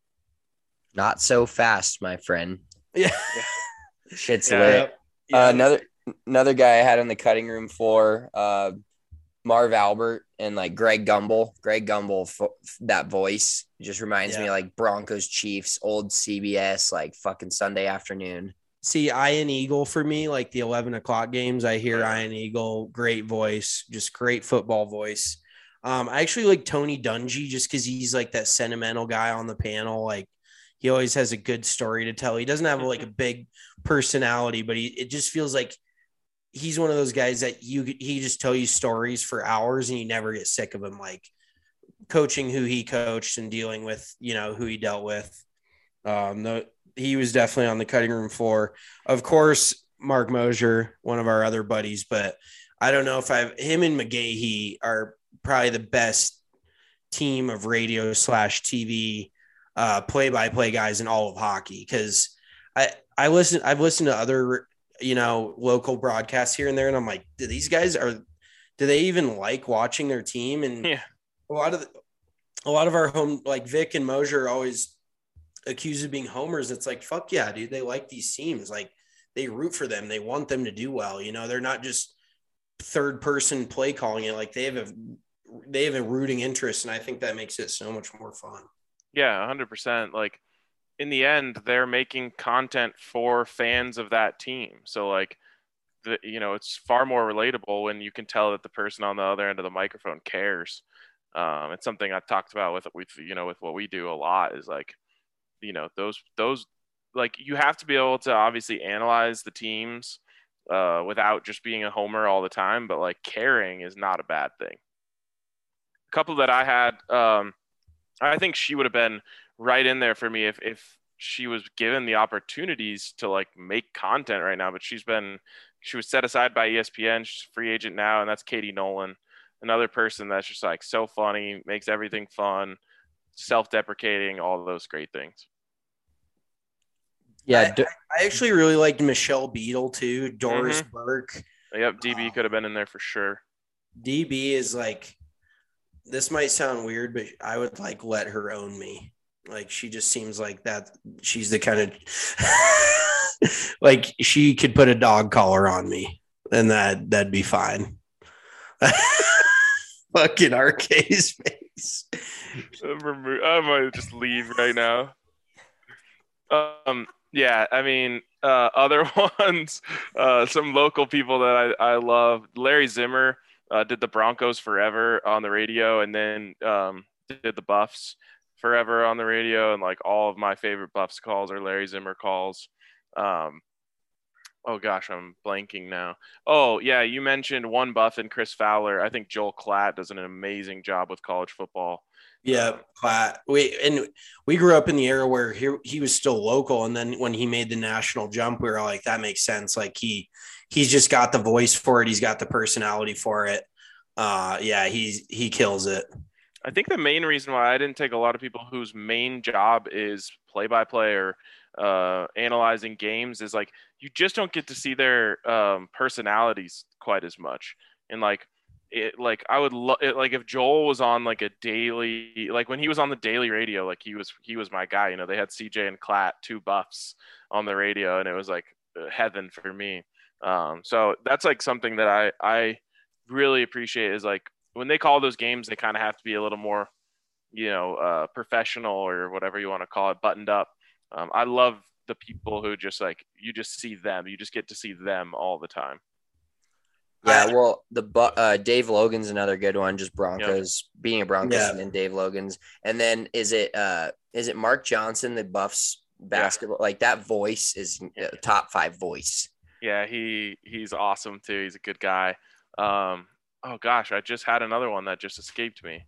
Not so fast, my friend. Yeah, shit's yeah, lit. Yep. Yep. Uh, another another guy I had on the cutting room floor, uh, Marv Albert and like Greg Gumbel. Greg Gumbel, fo- that voice just reminds Yeah. me of like Broncos Chiefs, old C B S, like fucking Sunday afternoon. See, Ian Eagle for me, like the eleven o'clock games, I hear Ian Eagle, great voice, just great football voice. Um, I actually like Tony Dungy just because he's like that sentimental guy on the panel. Like he always has a good story to tell. He doesn't have like a big personality, but he it just feels like he's one of those guys that you he just tell you stories for hours and you never get sick of him. Like coaching who he coached and dealing with, you know, who he dealt with. Um, the, he was definitely on the cutting room floor. Of course, Mark Mosier, one of our other buddies, but I don't know if I've him and McGahee are probably the best team of radio slash T V uh, play-by-play guys in all of hockey. Cause I, I listen, I've listened to other, you know, local broadcasts here and there. And I'm like, do these guys are, do they even like watching their team? And yeah. a lot of, the, a lot of our home, like Vic and Mosier are always accused of being homers. It's like, fuck yeah, dude. They like these teams. Like they root for them. They want them to do well. You know, they're not just third person play calling it. Like they have a, they have a rooting interest. And I think that makes it so much more fun. Yeah. A hundred percent. Like in the end, they're making content for fans of that team. So like, the, you know, it's far more relatable when you can tell that the person on the other end of the microphone cares. Um, it's something I've talked about with, with, you know, with what we do a lot is like, you know, those those like you have to be able to obviously analyze the teams uh, without just being a homer all the time, but like caring is not a bad thing. A couple that I had, um, I think she would have been right in there for me if if she was given the opportunities to like make content right now, but she's been she was set aside by E S P N. She's a free agent now, and that's Katie Nolan, another person that's just like so funny, makes everything fun, self-deprecating, all those great things. Yeah, I, I actually really liked Michelle Beadle too. Doris Mhm. Burke. Yep, D B Um, could have been in there for sure. D B is like, this might sound weird, but I would like let her own me. Like she just seems like that. She's the kind of like she could put a dog collar on me, and that that'd be fine. Fucking R K's face. I might just leave right now. Um, yeah, I mean, uh, other ones, uh, some local people that I, I love. Larry Zimmer uh, did the Broncos forever on the radio, and then um, did the Buffs forever on the radio. And like all of my favorite Buffs calls are Larry Zimmer calls. Um, oh gosh, I'm blanking now. Oh yeah, you mentioned one Buff and Chris Fowler. I think Joel Klatt does an amazing job with college football. Yeah, Platt. We and we grew up in the era where he he was still local, and then when he made the national jump, we were like, that makes sense. Like he he's just got the voice for it. He's got the personality for it. Uh, yeah, he's he kills it. I think the main reason why I didn't take a lot of people whose main job is play-by-play or uh, analyzing games is like you just don't get to see their um, personalities quite as much. And like it, like I would love like if Joel was on like a daily, like when he was on the daily radio, like he was he was my guy. You know, they had C J and Klatt, two Buffs on the radio, and it was like heaven for me. Um, so that's like something that I I really appreciate is like. When they call those games, they kind of have to be a little more, you know, uh, professional or whatever you want to call it, buttoned up. Um, I love the people who just like, you just see them. You just get to see them all the time. Yeah, well, the uh, Dave Logan's another good one. Just Broncos, yep. Being a Broncos yeah. and then Dave Logan's. And then is it uh, is it Mark Johnson, the Buffs basketball? Yeah. Like that voice is a top five voice. Yeah, he he's awesome too. He's a good guy. Um, Oh gosh, I just had another one that just escaped me.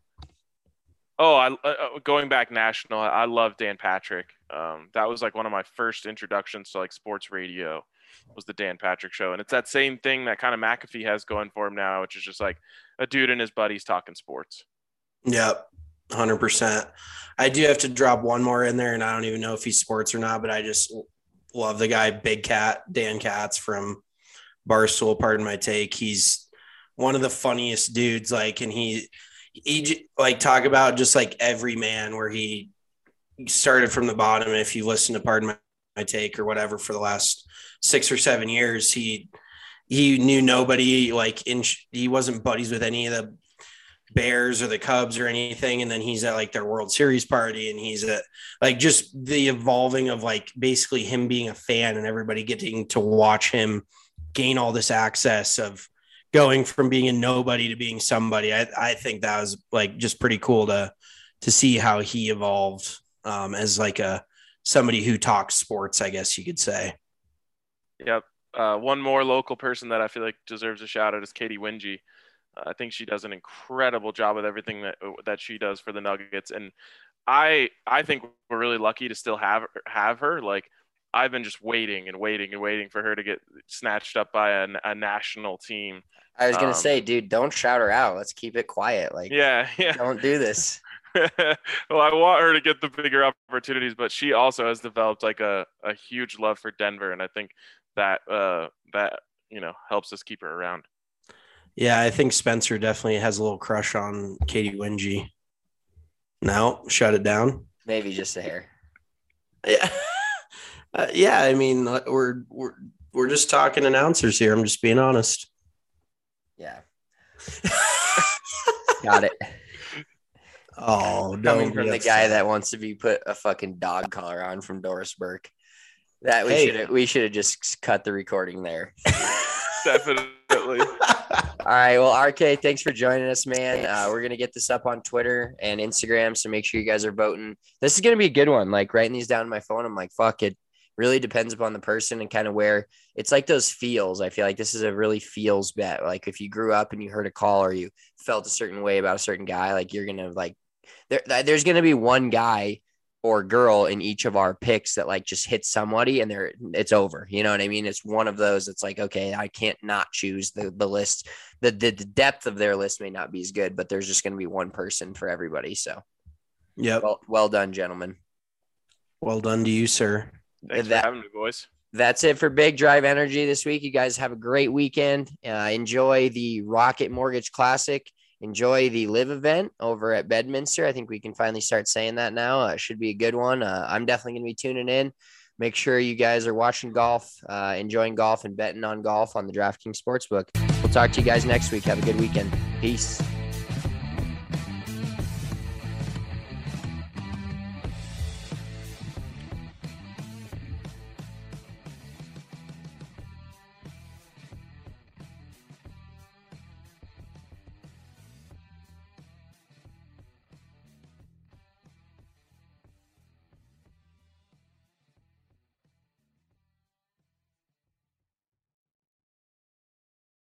Oh, I uh, going back national. I love Dan Patrick. Um, that was like one of my first introductions to like sports radio. Was the Dan Patrick Show, and it's that same thing that kind of McAfee has going for him now, which is just like a dude and his buddies talking sports. Yep, one hundred percent. I do have to drop one more in there, and I don't even know if he's sports or not, but I just love the guy, Big Cat, Dan Katz from Barstool. Pardon my take. He's one of the funniest dudes, like, and he, he like talk about just like every man where he started from the bottom. If you listen to Pardon My, my Take or whatever for the last six or seven years, he, he knew nobody, like in, he wasn't buddies with any of the Bears or the Cubs or anything. And then he's at like their World Series party, and he's at like just the evolving of like basically him being a fan and everybody getting to watch him gain all this access of going from being a nobody to being somebody. I, I think that was like just pretty cool to to see how he evolved um, as like a somebody who talks sports, I guess you could say. Yep. Uh, one more local person that I feel like deserves a shout out is Katie Wingy. Uh, I think she does an incredible job with everything that that she does for the Nuggets, and I I think we're really lucky to still have have her. Like I've been just waiting and waiting and waiting for her to get snatched up by a, a national team. I was gonna um, say, dude, don't shout her out. Let's keep it quiet. Like, yeah, yeah. Don't do this. Well, I want her to get the bigger opportunities, but she also has developed like a, a huge love for Denver, and I think that uh, that you know helps us keep her around. Yeah, I think Spencer definitely has a little crush on Katie Wingy. No, shut it down. Maybe just a hair. Yeah. Uh, yeah, I mean, we're we're we're just talking announcers here. I'm just being honest. Yeah. Got it. Oh, coming from the guy that wants to be put a fucking dog collar on from Doris Burke. That we hey. should we should have just cut the recording there. Definitely. All right. Well, R K, thanks for joining us, man. Uh, we're going to get this up on Twitter and Instagram. So make sure you guys are voting. This is going to be a good one. Like writing these down on my phone. I'm like, fuck it. Really depends upon the person and kind of where it's like those feels. I feel like this is a really feels bet. Like if you grew up and you heard a call or you felt a certain way about a certain guy, like you're going to like, there, there's going to be one guy or girl in each of our picks that like just hits somebody and they're it's over. You know what I mean? It's one of those. It's like, okay, I can't not choose the, the list. The, the the depth of their list may not be as good, but there's just going to be one person for everybody. So yeah, well, well done, gentlemen. Well done to you, sir. Thanks that, for having me, boys. That's it for Big Drive Energy this week. You guys have a great weekend. Uh, enjoy the Rocket Mortgage Classic. Enjoy the live event over at Bedminster. I think we can finally start saying that now. Uh, should be a good one. Uh, I'm definitely going to be tuning in. Make sure you guys are watching golf, uh, enjoying golf, and betting on golf on the DraftKings Sportsbook. We'll talk to you guys next week. Have a good weekend. Peace.